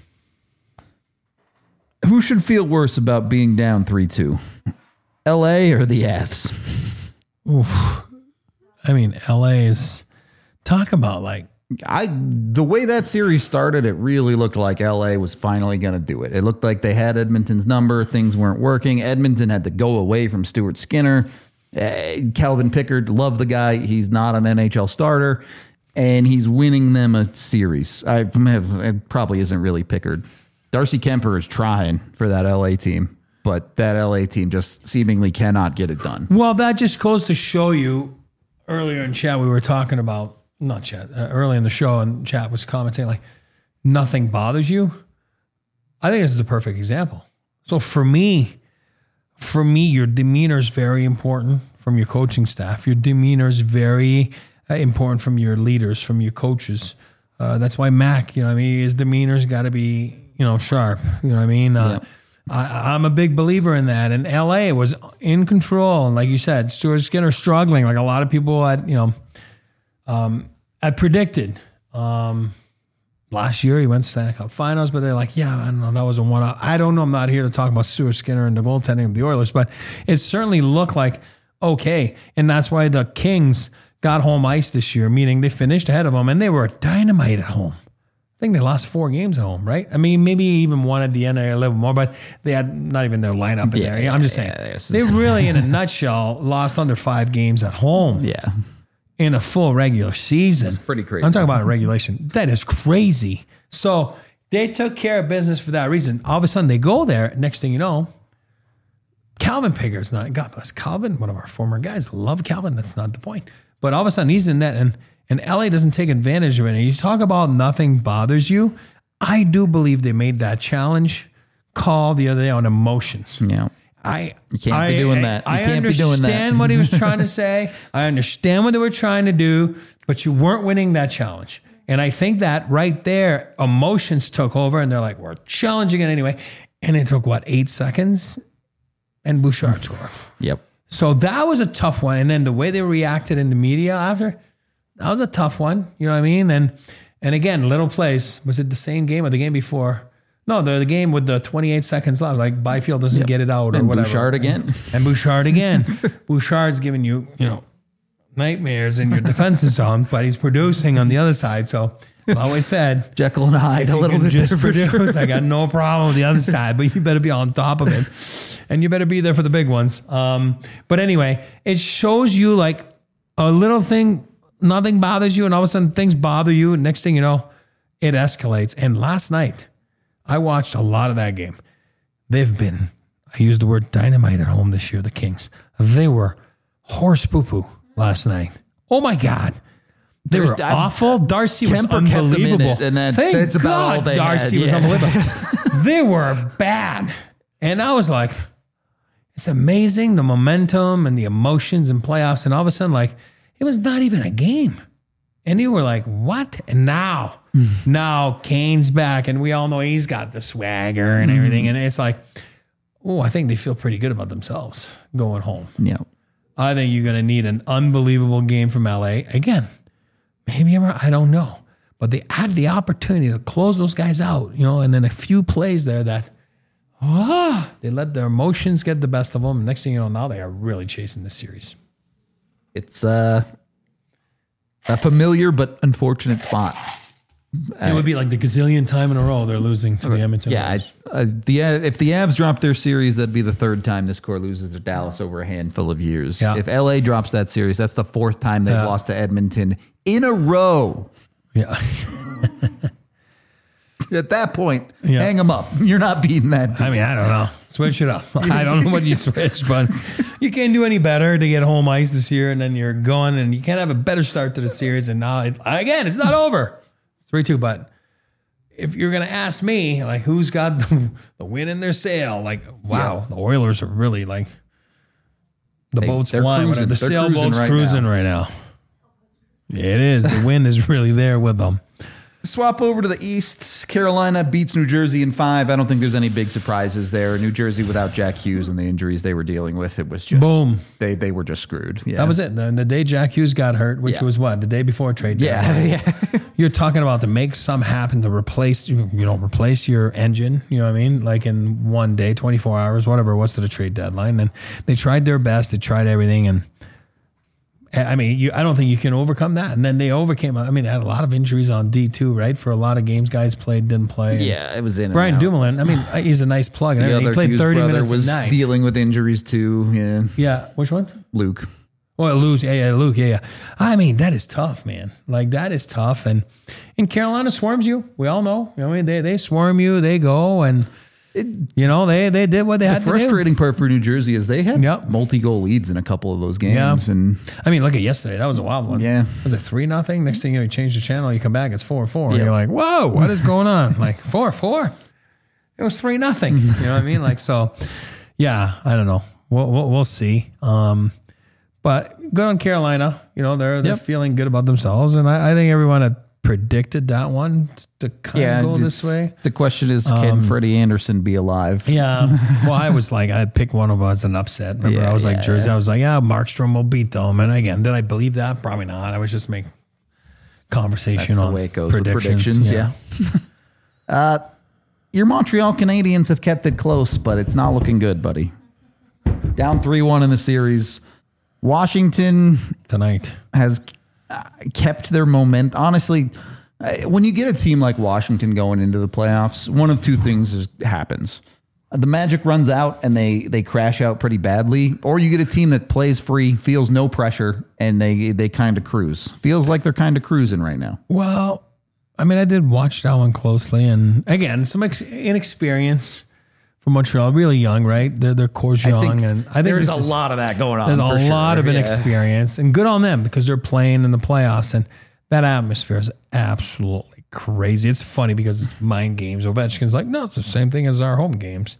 Who should feel worse about being down three two? L A or the Avs? Oof. I mean, L A is talk about like I the way that series started, it really looked like L A was finally going to do it. It looked like they had Edmonton's number. Things weren't working. Edmonton had to go away from Stuart Skinner. Uh, Calvin Pickard, love the guy. He's not an N H L starter, and he's winning them a series. I it probably isn't really Pickard. Darcy Kemper is trying for that L A team, but that L A team just seemingly cannot get it done. Well, that just goes to show you. Earlier in chat, we were talking about not chat uh, early in the show, and chat was commenting like nothing bothers you. I think this is a perfect example. So for me, for me, your demeanor is very important from your coaching staff. Your demeanor is very uh, important from your leaders, from your coaches. Uh, that's why Mac, you know what I mean, his demeanor's got to be, you know, sharp. You know what I mean? Uh, Yep. I, I'm a big believer in that. And L A was in control. And like you said, Stuart Skinner struggling, like a lot of people had, you know, um, had predicted. Um, last year he went to Stanley Cup Finals, but they're like, yeah, I don't know, that was a one-off. I don't know. I'm not here to talk about Stuart Skinner and the goaltending of the Oilers, but it certainly looked like okay. And that's why the Kings got home ice this year, meaning they finished ahead of them, and they were dynamite at home. I think they lost four games at home, right? I mean, maybe even one at the end or a little more, but they had not even their lineup in Yeah, there. I'm just saying. yeah, they really, in a nutshell, lost under five games at home. Yeah. In a full regular season. That's pretty crazy. I'm talking about a regulation. That is crazy. So they took care of business for that reason. All of a sudden they go there. Next thing you know, Calvin Pigger's not, God bless Calvin, one of our former guys. Love Calvin. That's not the point. But all of a sudden he's in net, and, and L A doesn't take advantage of it. And you talk about nothing bothers you. I do believe they made that challenge call the other day on emotions. Yeah. I You can't I, be doing that. You I can't be doing that. understand what he was trying to say. I understand what they were trying to do, but you weren't winning that challenge. And I think that right there, emotions took over, and they're like, we're challenging it anyway. And it took, what, eight seconds? And Bouchard scored. Yep. So that was a tough one. And then the way they reacted in the media after, that was a tough one. You know what I mean? And and again, little plays. Was it the same game or the game before? No, the, the game with the twenty-eight seconds left. Like Byfield doesn't Yep. get it out or And whatever. Bouchard again. And, and Bouchard again. Bouchard's giving you, you know, nightmares in your defensive zone, but he's producing on the other side. So I've always said, Jekyll and Hyde if a you little can bit just there for produce, sure. I got no problem with the other side, but you better be on top of it. And you better be there for the big ones. Um, but anyway, it shows you like a little thing, nothing bothers you, and all of a sudden things bother you. And next thing you know, it escalates. And last night, I watched a lot of that game. They've been, I used the word dynamite at home this year, the Kings. They were horse poo-poo last night. Oh my God. They There's- were I- awful. Darcy Kemper was kept them in unbelievable. it, and that- Thank that's about God all they Darcy had, was yeah. unbelievable. They were bad. And I was like, it's amazing the momentum and the emotions in playoffs. And all of a sudden, like, it was not even a game. And you were like, what? And now, now Kane's back, and we all know he's got the swagger and everything. And it's like, oh, I think they feel pretty good about themselves going home. Yeah. I think you're going to need an unbelievable game from L A. Again, maybe I'm, I don't know. But they had the opportunity to close those guys out, you know, and then a few plays there that, ah, they let their emotions get the best of them. Next thing you know, now they are really chasing this series. It's uh, a familiar but unfortunate spot. It would be like the gazillion time in a row they're losing to the Edmonton. Yeah, Oilers. I, uh, the uh, if the Avs drop their series, that'd be the third time this core loses to Dallas over a handful of years. Yeah. If L A drops that series, that's the fourth time they've Yeah. lost to Edmonton in a row. Yeah. At that point, Yeah. hang them up. You're not beating that team. I mean, I don't know. Switch it up. I don't know what you switch, but you can't do any better to get home ice this year, and then you're going, and you can't have a better start to the series. And now, it, again, it's not over. three two, but if you're going to ask me, like, who's got the, the wind in their sail? Like, wow, the Oilers are really like, the They- boat's they're flying. cruising. The They're sailboat's cruising right cruising now. right now. Yeah, it is. The wind is really there with them. Swap over to the East. Carolina beats New Jersey in five. I don't think there's any big surprises there. New Jersey without Jack Hughes and the injuries they were dealing with, it was just Boom. They they were just screwed. Yeah, That was it. The, the day Jack Hughes got hurt, which Yeah. was what? The day before trade deadline. Yeah, yeah. You're talking about to make some happen to replace, you know, replace your engine, you know what I mean? Like in one day, twenty-four hours, whatever it was to the trade deadline. And they tried their best. They tried everything. And I mean, you, I don't think you can overcome that. And then they overcame, I mean, they had a lot of injuries on D two, right? For a lot of games, guys played, didn't play. And Yeah, it was in and Brian out. Dumoulin, I mean, he's a nice plug. And The everything. other He played Hughes thirty brother minutes was a night. dealing with injuries too. Yeah, Yeah. Which one? Luke. Well, lose, yeah, yeah, Luke, yeah, yeah. I mean, that is tough, man. Like that is tough, and and Carolina swarms you. We all know. I mean, they they swarm you. They go and It, you know they they did what they the had to do. frustrating part for New Jersey is they had Yep. multi-goal leads in a couple of those games, Yeah. and I mean, look at yesterday. That was a wild one. Yeah. Was it three nothing? Next thing you know, you change the channel, you come back, it's four four, and Yep. you're like, whoa, what is going on? Like four four. It was three nothing. You know what I mean? Like so. Yeah, I don't know. We'll we'll, we'll see. Um, But good on Carolina. You know, they're they're Yep. feeling good about themselves. And I, I think everyone had predicted that one to kind Yeah, of go this it's- way. The question is, can Um, Freddie Anderson be alive? Yeah. Well, I was like, I'd pick one of us an upset. Remember, Yeah, I was like, yeah, Jersey. yeah. I was like, yeah, Markstrom will beat them. And again, did I believe that? Probably not. I was just making conversation That's the on way it goes with predictions. predictions, yeah. uh, your Montreal Canadiens have kept it close, but it's not looking good, buddy. Down three one in the series. Washington tonight has uh, kept their momentum. Honestly, uh, when you get a team like Washington going into the playoffs, one of two things is, happens. The magic runs out and they they crash out pretty badly, or you get a team that plays free, feels no pressure, and they they kind of cruise. Feels like they're kind of cruising right now. Well, I mean, I did watch that one closely, and again, some ex- inexperience from Montreal. Really young, right? They're they're core's I young, think and I think there's this a is- lot of that going on. There's a for lot sure. of Yeah. inexperience, and good on them because they're playing in the playoffs, and that atmosphere is absolutely crazy. It's funny because it's mind games. Ovechkin's like, no, it's the same thing as our home games.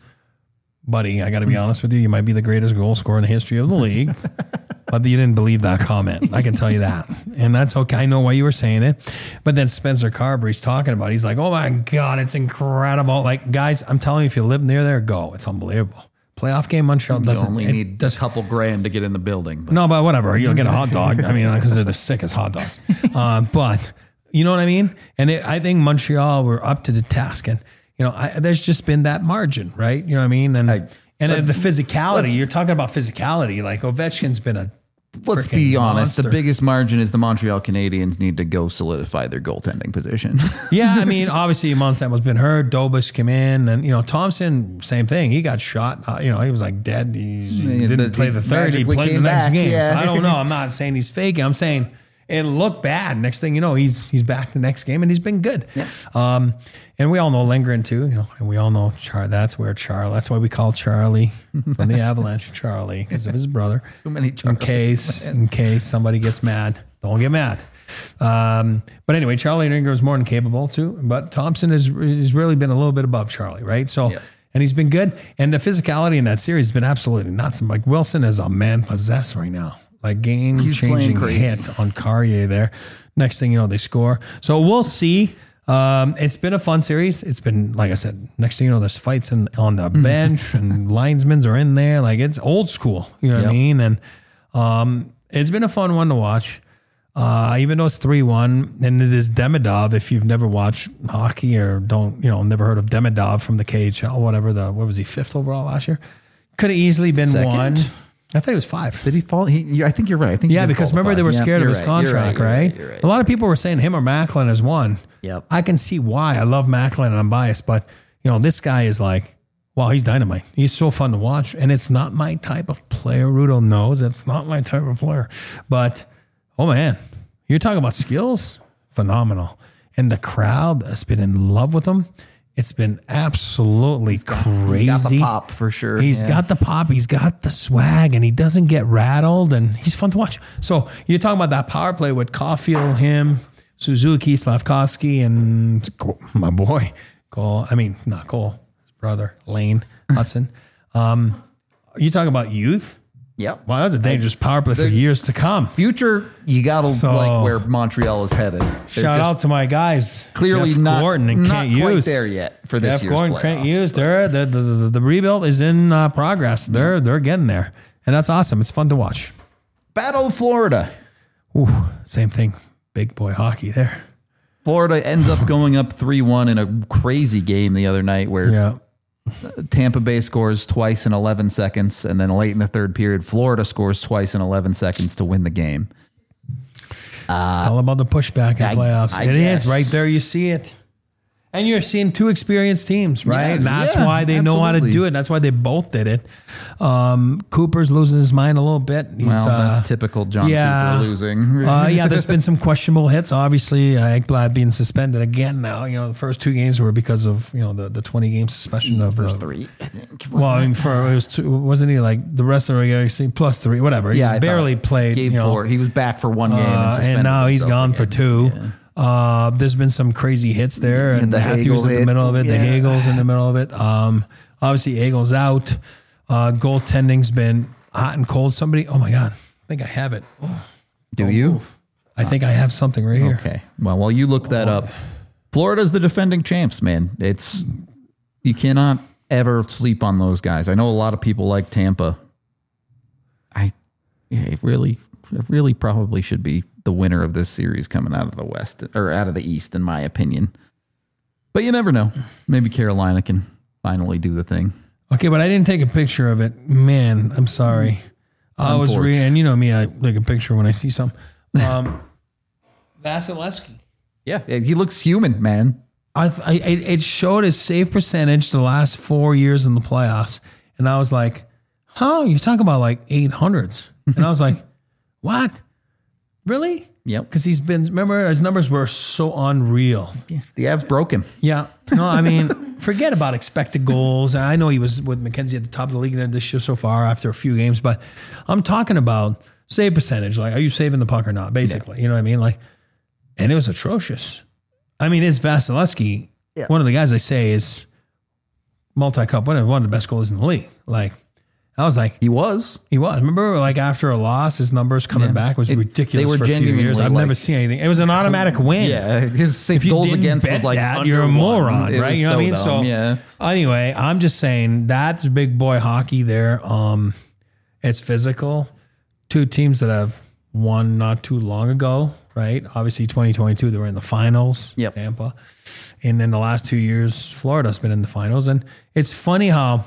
Buddy, I got to be honest with you. You might be the greatest goal scorer in the history of the league, but you didn't believe that comment. I can tell you that. And that's okay. I know why you were saying it. But then Spencer Carberry's talking about it. He's like, oh my God, it's incredible. Like, guys, I'm telling you, if you live near there, go. It's unbelievable. Playoff game, Montreal You doesn't. only it need does, a couple grand to get in the building. But no, but whatever. You'll get a hot dog. I mean, because they're the sickest hot dogs. Uh, but you know what I mean? And it, I think Montreal were up to the task. And, you know, I, there's just been that margin, right? You know what I mean? And I, and let, the physicality, you're talking about physicality. Like Ovechkin's been a Let's be honest. monster. The biggest margin is the Montreal Canadiens need to go solidify their goaltending position. Yeah, I mean, obviously Montem's been hurt. Dobas came in, and you know Thompson, same thing. He got shot. Uh, you know, he was like dead. He, he didn't the- play he the third. He magically played the came next back, game. yeah. So I don't know. I'm not saying he's faking. I'm saying it looked bad. Next thing you know, he's he's back the next game, and he's been good. Yeah. Um, and we all know Lindgren too. You know, and we all know Char. That's where Charlie. That's why we call Charlie from the Avalanche Charlie because of his brother. Too many In Charlies, case man. in case somebody gets mad, don't get mad. Um, but anyway, Charlie Lindgren is more than capable too. But Thompson has has really been a little bit above Charlie, right? So. Yeah. And he's been good. And the physicality in that series has been absolutely nuts. Like Wilson is a man possessed right now. Like game He's playing changing crazy. hit on Carrier there. Next thing you know, they score. So we'll see. Um, it's been a fun series. It's been, like I said, next thing you know, there's fights in, on the bench and linesmen are in there. Like it's old school. You know what Yep. I mean? And um, it's been a fun one to watch. Uh, even though it's three one, and it is Demidov. If you've never watched hockey or don't, you know, never heard of Demidov from the K H L, whatever the, what was he, fifth overall last year? Could have easily been Second? one. I thought he was five. Did he fall? He, yeah, I think you're right. I think he Yeah, did because fall to remember they five. were Yeah, scared of you're his right, you're contract, you're right? You're right. A lot of people were saying him or Macklin as one. Yep. I can see why. I love Macklin and I'm biased, but you know, this guy is like, wow, he's dynamite. He's so fun to watch. And it's not my type of player. Rudo knows it's not my type of player. But oh man, you're talking about skills, phenomenal. And the crowd has been in love with him. It's been absolutely crazy. He's got the pop for sure. He's Yeah. got the pop. He's got the swag, and he doesn't get rattled, and he's fun to watch. So you're talking about that power play with Caulfield, him, Suzuki, Slavkovsky, and Cole- my boy Cole. I mean, not Cole, his brother Lane Hudson. Um, you talking about youth? Yep. Wow, that's a dangerous power play for The- years to come. Future, you got to So- like where Montreal is headed. They're Shout just out to my guys, clearly Jeff not, Gordon and not Kent quite Hughes. there yet for this Jeff year's Gordon, playoffs. Kent Hughes. They're the, the the the rebuild is in uh, progress. They're they're getting there, and that's awesome. It's fun to watch. Battle of Florida. Ooh, same thing. Big boy hockey there. Florida ends up going up three one in a crazy game the other night where Yeah. Tampa Bay scores twice in eleven seconds, and then late in the third period, Florida scores twice in eleven seconds to win the game. It's all about the pushback in I- playoffs. I It is guess. right there. You see it. And you're seeing two experienced teams, right? Yeah, And that's yeah, why they know how to absolutely. do it. That's why they both did it. Um, Cooper's losing his mind a little bit. He's, Well, that's uh, typical John yeah. Cooper losing. uh, yeah, there's been some questionable hits. Obviously, uh, Ekblad being suspended again now. You know, the first two games were because of, you know, the, the twenty game suspension of First the, three, I think. Well, I mean, for it was two, wasn't he like the rest of the regular season plus three, whatever. He's Yeah, I thought barely played. Game you know, four. He was back for one game uh, and suspended and now he's himself gone again. for two. Yeah. Uh, there's been some crazy hits there, And and the Matthews Hagel in the hit. middle of it. The Yeah. Hagel's in the middle of it. Um, obviously, Hagel's out. Uh, goaltending's been hot and cold. Somebody, oh my God, think I have it. Oh, Do you? Move. I think I have something right here. Okay. Well, while you look that up, Florida's the defending champs, man. It's you cannot ever sleep on those guys. I know a lot of people like Tampa. I yeah, it really, it really probably should be the winner of this series coming out of the West or out of the East, in my opinion. But you never know. Maybe Carolina can finally do the thing. Okay, but I didn't take a picture of it. Man, I'm sorry. I was reading, and you know me, I take a picture when I see something. Um, Vasilevsky. Yeah, he looks human, man. I, I it showed his save percentage the last four years in the playoffs, and I was like, "Huh? You're talking about like eight hundreds?" And I was like, "What? Really?" Yep. Because he's been. Remember, his numbers were so unreal. Yeah, the Avs broke him. Yeah. No, I mean, forget about expected goals. I know he was with McKenzie at the top of the league there this year so far after a few games, but I'm talking about save percentage. Like, are you saving the puck or not? Basically, yeah. You know what I mean? Like, and it was atrocious. I mean, it's Vasilevsky. Yeah. One of the guys I say is multi-cup winner, one of the best goalies in the league. Like, I was like, he was, he was. Remember, like after a loss, his numbers coming yeah. back was it, ridiculous. They were for a few years. I've like, never seen anything. It was an automatic win. Yeah, his if goals against was like that, you're a moron, it right? You know so what I mean? Dumb, so yeah. Anyway, I'm just saying that's big boy hockey there. Um, it's physical. Two teams that have won not too long ago, right? Obviously, twenty twenty-two they were in the finals. Yep. Tampa, and then the last two years, Florida's been in the finals, and it's funny how.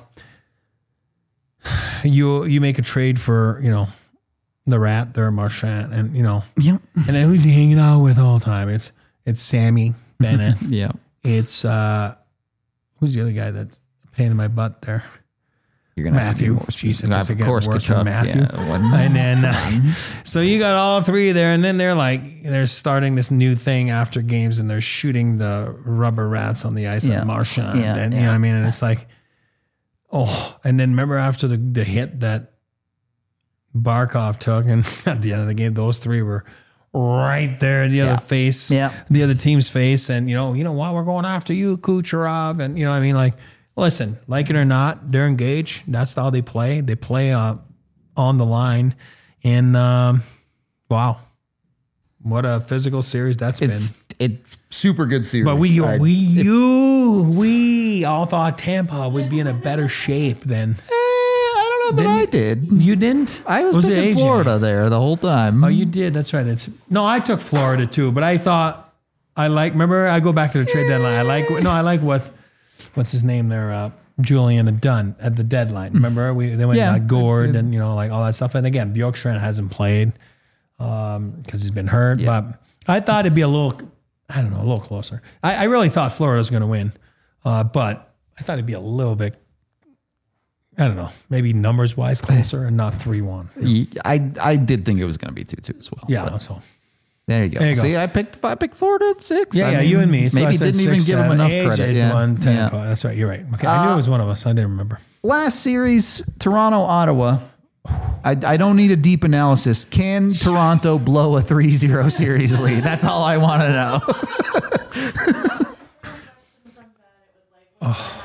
You you make a trade for, you know, the Rat, their Marchand, and, you know, yeah. And then who's he hanging out with all the time? It's it's Sammy Bennett. yeah. It's, uh, who's the other guy that's a pain in my butt there? You're going to have to Matthew. Jesus, that's of course, worse than Matthew. Yeah, and then, uh, so you got all three there, and then they're like, they're starting this new thing after games, and they're shooting the rubber rats on the ice yeah. at Marchand. Yeah, and, yeah. You know what I mean? And it's like, oh, and then remember after the, the hit that Barkov took, and at the end of the game, those three were right there in the yeah. other face, yeah. the other team's face, and you know, you know what, we're going after you, Kucherov, and you know what I mean? Like, listen, like it or not, they're engaged. That's how they play. They play uh, on the line, and um, wow, what a physical series that's it's, been. It's super good series. But we, I, we, you, we all thought Tampa would be in a better shape than. Eh, I don't know that I did. You didn't? I was, was picking Florida there the whole time. Oh, you did. That's right. It's no, I took Florida too, but I thought I like. Remember, I go back to the trade deadline. I like. No, I like what. What's his name there? Uh, Julian had done at the deadline. Remember, we they went yeah, like Gord and you know like all that stuff. And again, Bjorkstrand hasn't played because um, he's been hurt. Yeah. But I thought it'd be a little. I don't know, a little closer. I, I really thought Florida was going to win, uh, but I thought it'd be a little bit, I don't know, maybe numbers-wise closer and not three one. I I did think it was going to be two two as well. Yeah, so. There you go. There you See, go. I picked I picked Florida at six. Yeah, I yeah, mean, you and me. So maybe I said didn't six, even give seven. them enough A J's credit. the Yeah. one, ten. Yeah. That's right, you're right. Okay, I knew Uh, it was one of us. I didn't remember. Last series, Toronto, Ottawa. I, I don't need a deep analysis. Can Toronto blow a three zero series lead? That's all I want to know. Oh.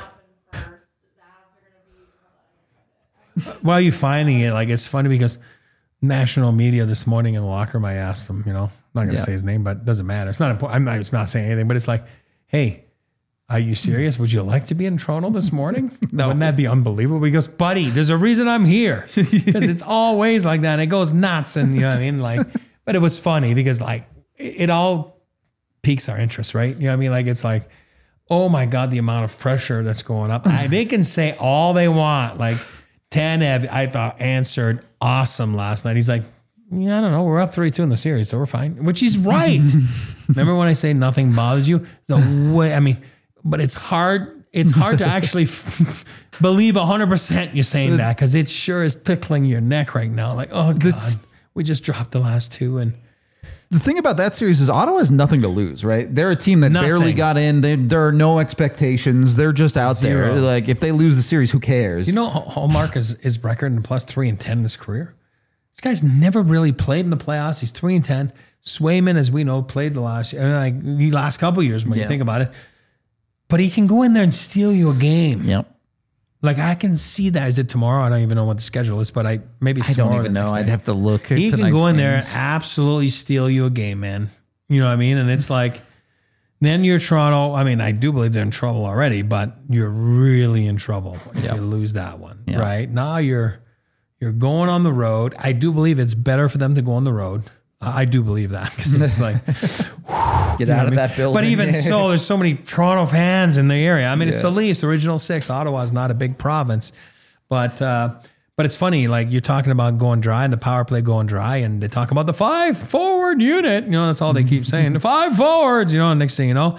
Why are you finding it? Like, it's funny because national media this morning in the locker room, I asked them, you know, I'm not going to Yeah. say his name, but it doesn't matter. It's not important. I'm not, it's not saying anything, but it's like, hey, are you serious? Would you like to be in Toronto this morning? No. Wouldn't that be unbelievable? He goes, buddy, there's a reason I'm here. Because it's always like that. And it goes nuts. And you know what I mean? Like, but it was funny because like it, it all piques our interest, right? You know what I mean? Like, it's like, oh my God, the amount of pressure that's going up. I, they can say all they want. Like Tanev, I thought answered awesome last night. He's like, yeah, I don't know. We're up three two in the series, so we're fine. Which he's right. Remember when I say nothing bothers you? The way, I mean, but it's hard. It's hard to actually f- believe one hundred percent you're saying that because it sure is tickling your neck right now. Like, oh, God, we just dropped the last two. And the thing about that series is Ottawa has nothing to lose, right? They're a team that Nothing. barely got in. They, there are no expectations. They're just out Zero. there. Like, if they lose the series, who cares? You know, Hallmark is his record in plus three and ten in his career. This guy's never really played in the playoffs. He's three and ten. Swayman, as we know, played the last like the last couple of years when Yeah. you think about it. But he can go in there and steal you a game. Yep. Like I can see that. Is it tomorrow? I don't even know what the schedule is, but I maybe it's I tomorrow don't or even the know. next I'd day. have to look. At He can tonight's go in there and games. absolutely steal you a game, man. You know what I mean? And it's like, then you're Toronto. I mean, I do believe they're in trouble already, but you're really in trouble if Yep. you lose that one, Yeah. right? Now you're you're going on the road. I do believe it's better for them to go on the road. I do believe that because it's like Get you know out what of I mean? that building. But even so, there's so many Toronto fans in the area. I mean, it's Yeah. the Leafs, original six. Ottawa's not a big province, but uh, but it's funny. Like you're talking about going dry and the power play going dry, and they talk about the five forward unit. You know, that's all they keep saying. The five forwards. You know, next thing you know,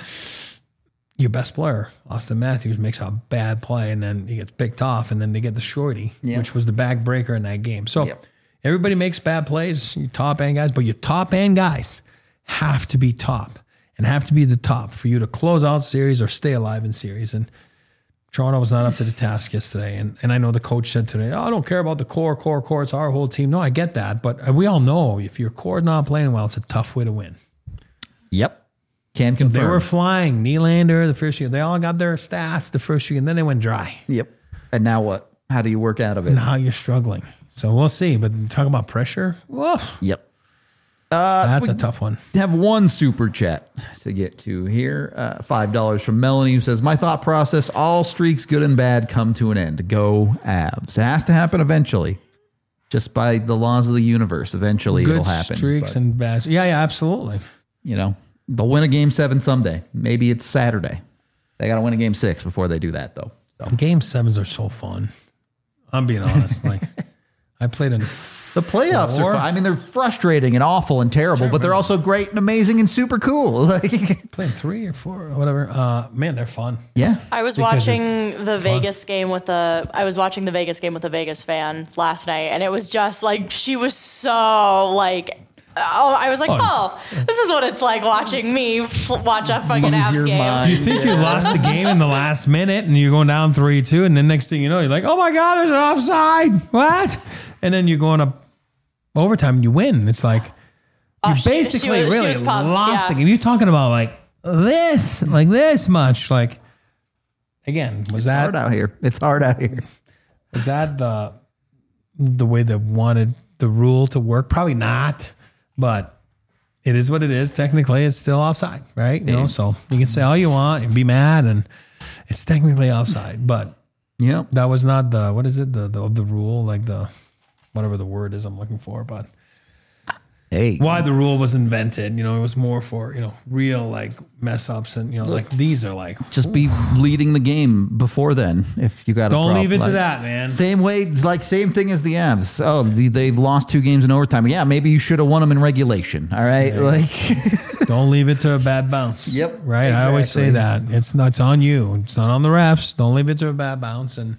your best player, Austin Matthews, makes a bad play, and then he gets picked off, and then they get the shorty, Yeah. which was the back breaker in that game. So. Yep. Everybody makes bad plays, you top end guys, but your top end guys have to be top and have to be the top for you to close out series or stay alive in series. And Toronto was not up to the task yesterday. And and I know the coach said today, oh, I don't care about the core, core, core. It's our whole team. No, I get that. But we all know if your core is not playing well, it's a tough way to win. Yep. Can So confirm. they were flying. Nylander, the first year, they all got their stats the first year, and then they went dry. Yep. And now what? How do you work out of it? Now you're struggling. So we'll see. But talk about pressure. Whoa, Yep. Uh, that's we a tough one. have one super chat to get to here. Uh, five dollars from Melanie, who says, my thought process, all streaks, good and bad, come to an end. Go Avs. It has to happen eventually. Just by the laws of the universe. Eventually Good it'll happen. streaks But, and bad. Yeah, yeah, absolutely. you know, they'll win a game seven someday. Maybe it's Saturday. They got to win a game six before they do that, though. So. Game sevens are so fun. I'm being honest. Like I played in The playoffs four. are fun. I mean, they're frustrating and awful and terrible, but they're also great and amazing and super cool. Like, playing three or four or whatever. Uh, man, they're fun. yeah. I was Because watching it's- the it's fun. Vegas game with a I was watching the Vegas game with a Vegas fan last night, and it was just like she was so like oh I was like Oh. oh this is what it's like watching me f- watch a fucking Lose Avs your game. mind. You think you lost the game in the last minute and you're going down three two, and then next thing you know, you're like, oh my God, there's an offside. What? And then you're going up overtime and you win. It's like you Oh, she- she basically was- she really was pumped, lost yeah. the game. You're talking about like this, like this much. Like again, was that Hard out here. It's hard out here. is that the the way they wanted the rule to work? Probably not, but it is what it is. Technically, it's still offside, right? You know, so you can say all you want and be mad, and it's technically offside. But Yep. that was not the what is it the the, the rule, like the whatever the word is I'm looking for. But Hey. why the rule was invented, you know, it was more for you know real like mess ups, and you know like these are like Just be leading the game before then if you got a don't problem. leave it to Like, that, man. Same way, it's like same thing as the Avs. Oh, the, they've lost two games in overtime. Yeah, maybe you should have won them in regulation. All right, like Don't leave it to a bad bounce. Yep, Right. I always say exactly. that. It's not it's on you. It's not on the refs. Don't leave it to a bad bounce. And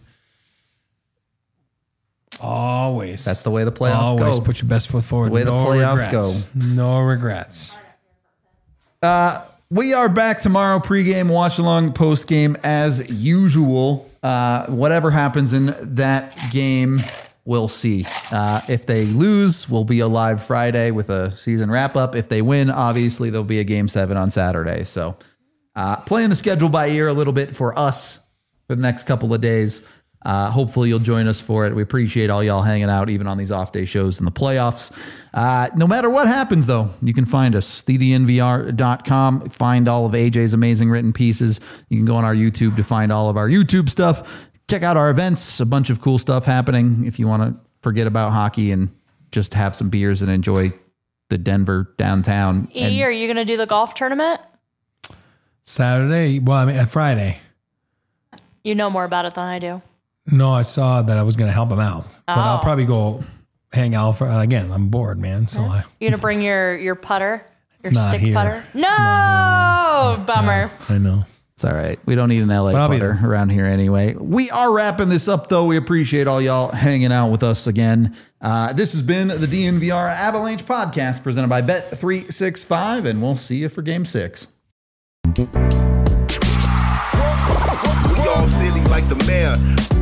always. That's the way the playoffs always go. put your best foot forward. The way the no playoffs regrets. No regrets. Uh, we are back tomorrow, pregame, watch along, postgame as usual. Uh, whatever happens in that game, we'll see. Uh, if they lose, we'll be a live Friday with a season wrap up. If they win, obviously there'll be a game seven on Saturday. So uh, playing the schedule by ear a little bit for us for the next couple of days. Uh, hopefully you'll join us for it. We appreciate all y'all hanging out, even on these off day shows in the playoffs. Uh, no matter what happens, though, you can find us, the d n v r dot com. Find all of A J's amazing written pieces. You can go on our YouTube to find all of our YouTube stuff. Check out our events, a bunch of cool stuff happening if you want to forget about hockey and just have some beers and enjoy the Denver downtown. And E, are you gonna do the golf tournament? Saturday. Well, I mean, uh, Friday. You know more about it than I do. No, I saw that I was going to help him out. But I'll Oh. probably go hang out for, again, I'm bored, man. So I, You're gonna bring your your putter, your It's not stick here. putter. No, bummer. I know. It's all right. We don't need an L A But I'll be putter around here anyway. We are wrapping this up, though. We appreciate all y'all hanging out with us again. Uh, this has been the D N V R Avalanche podcast presented by Bet three sixty-five, and we'll see you for game six. We all silly like the mayor.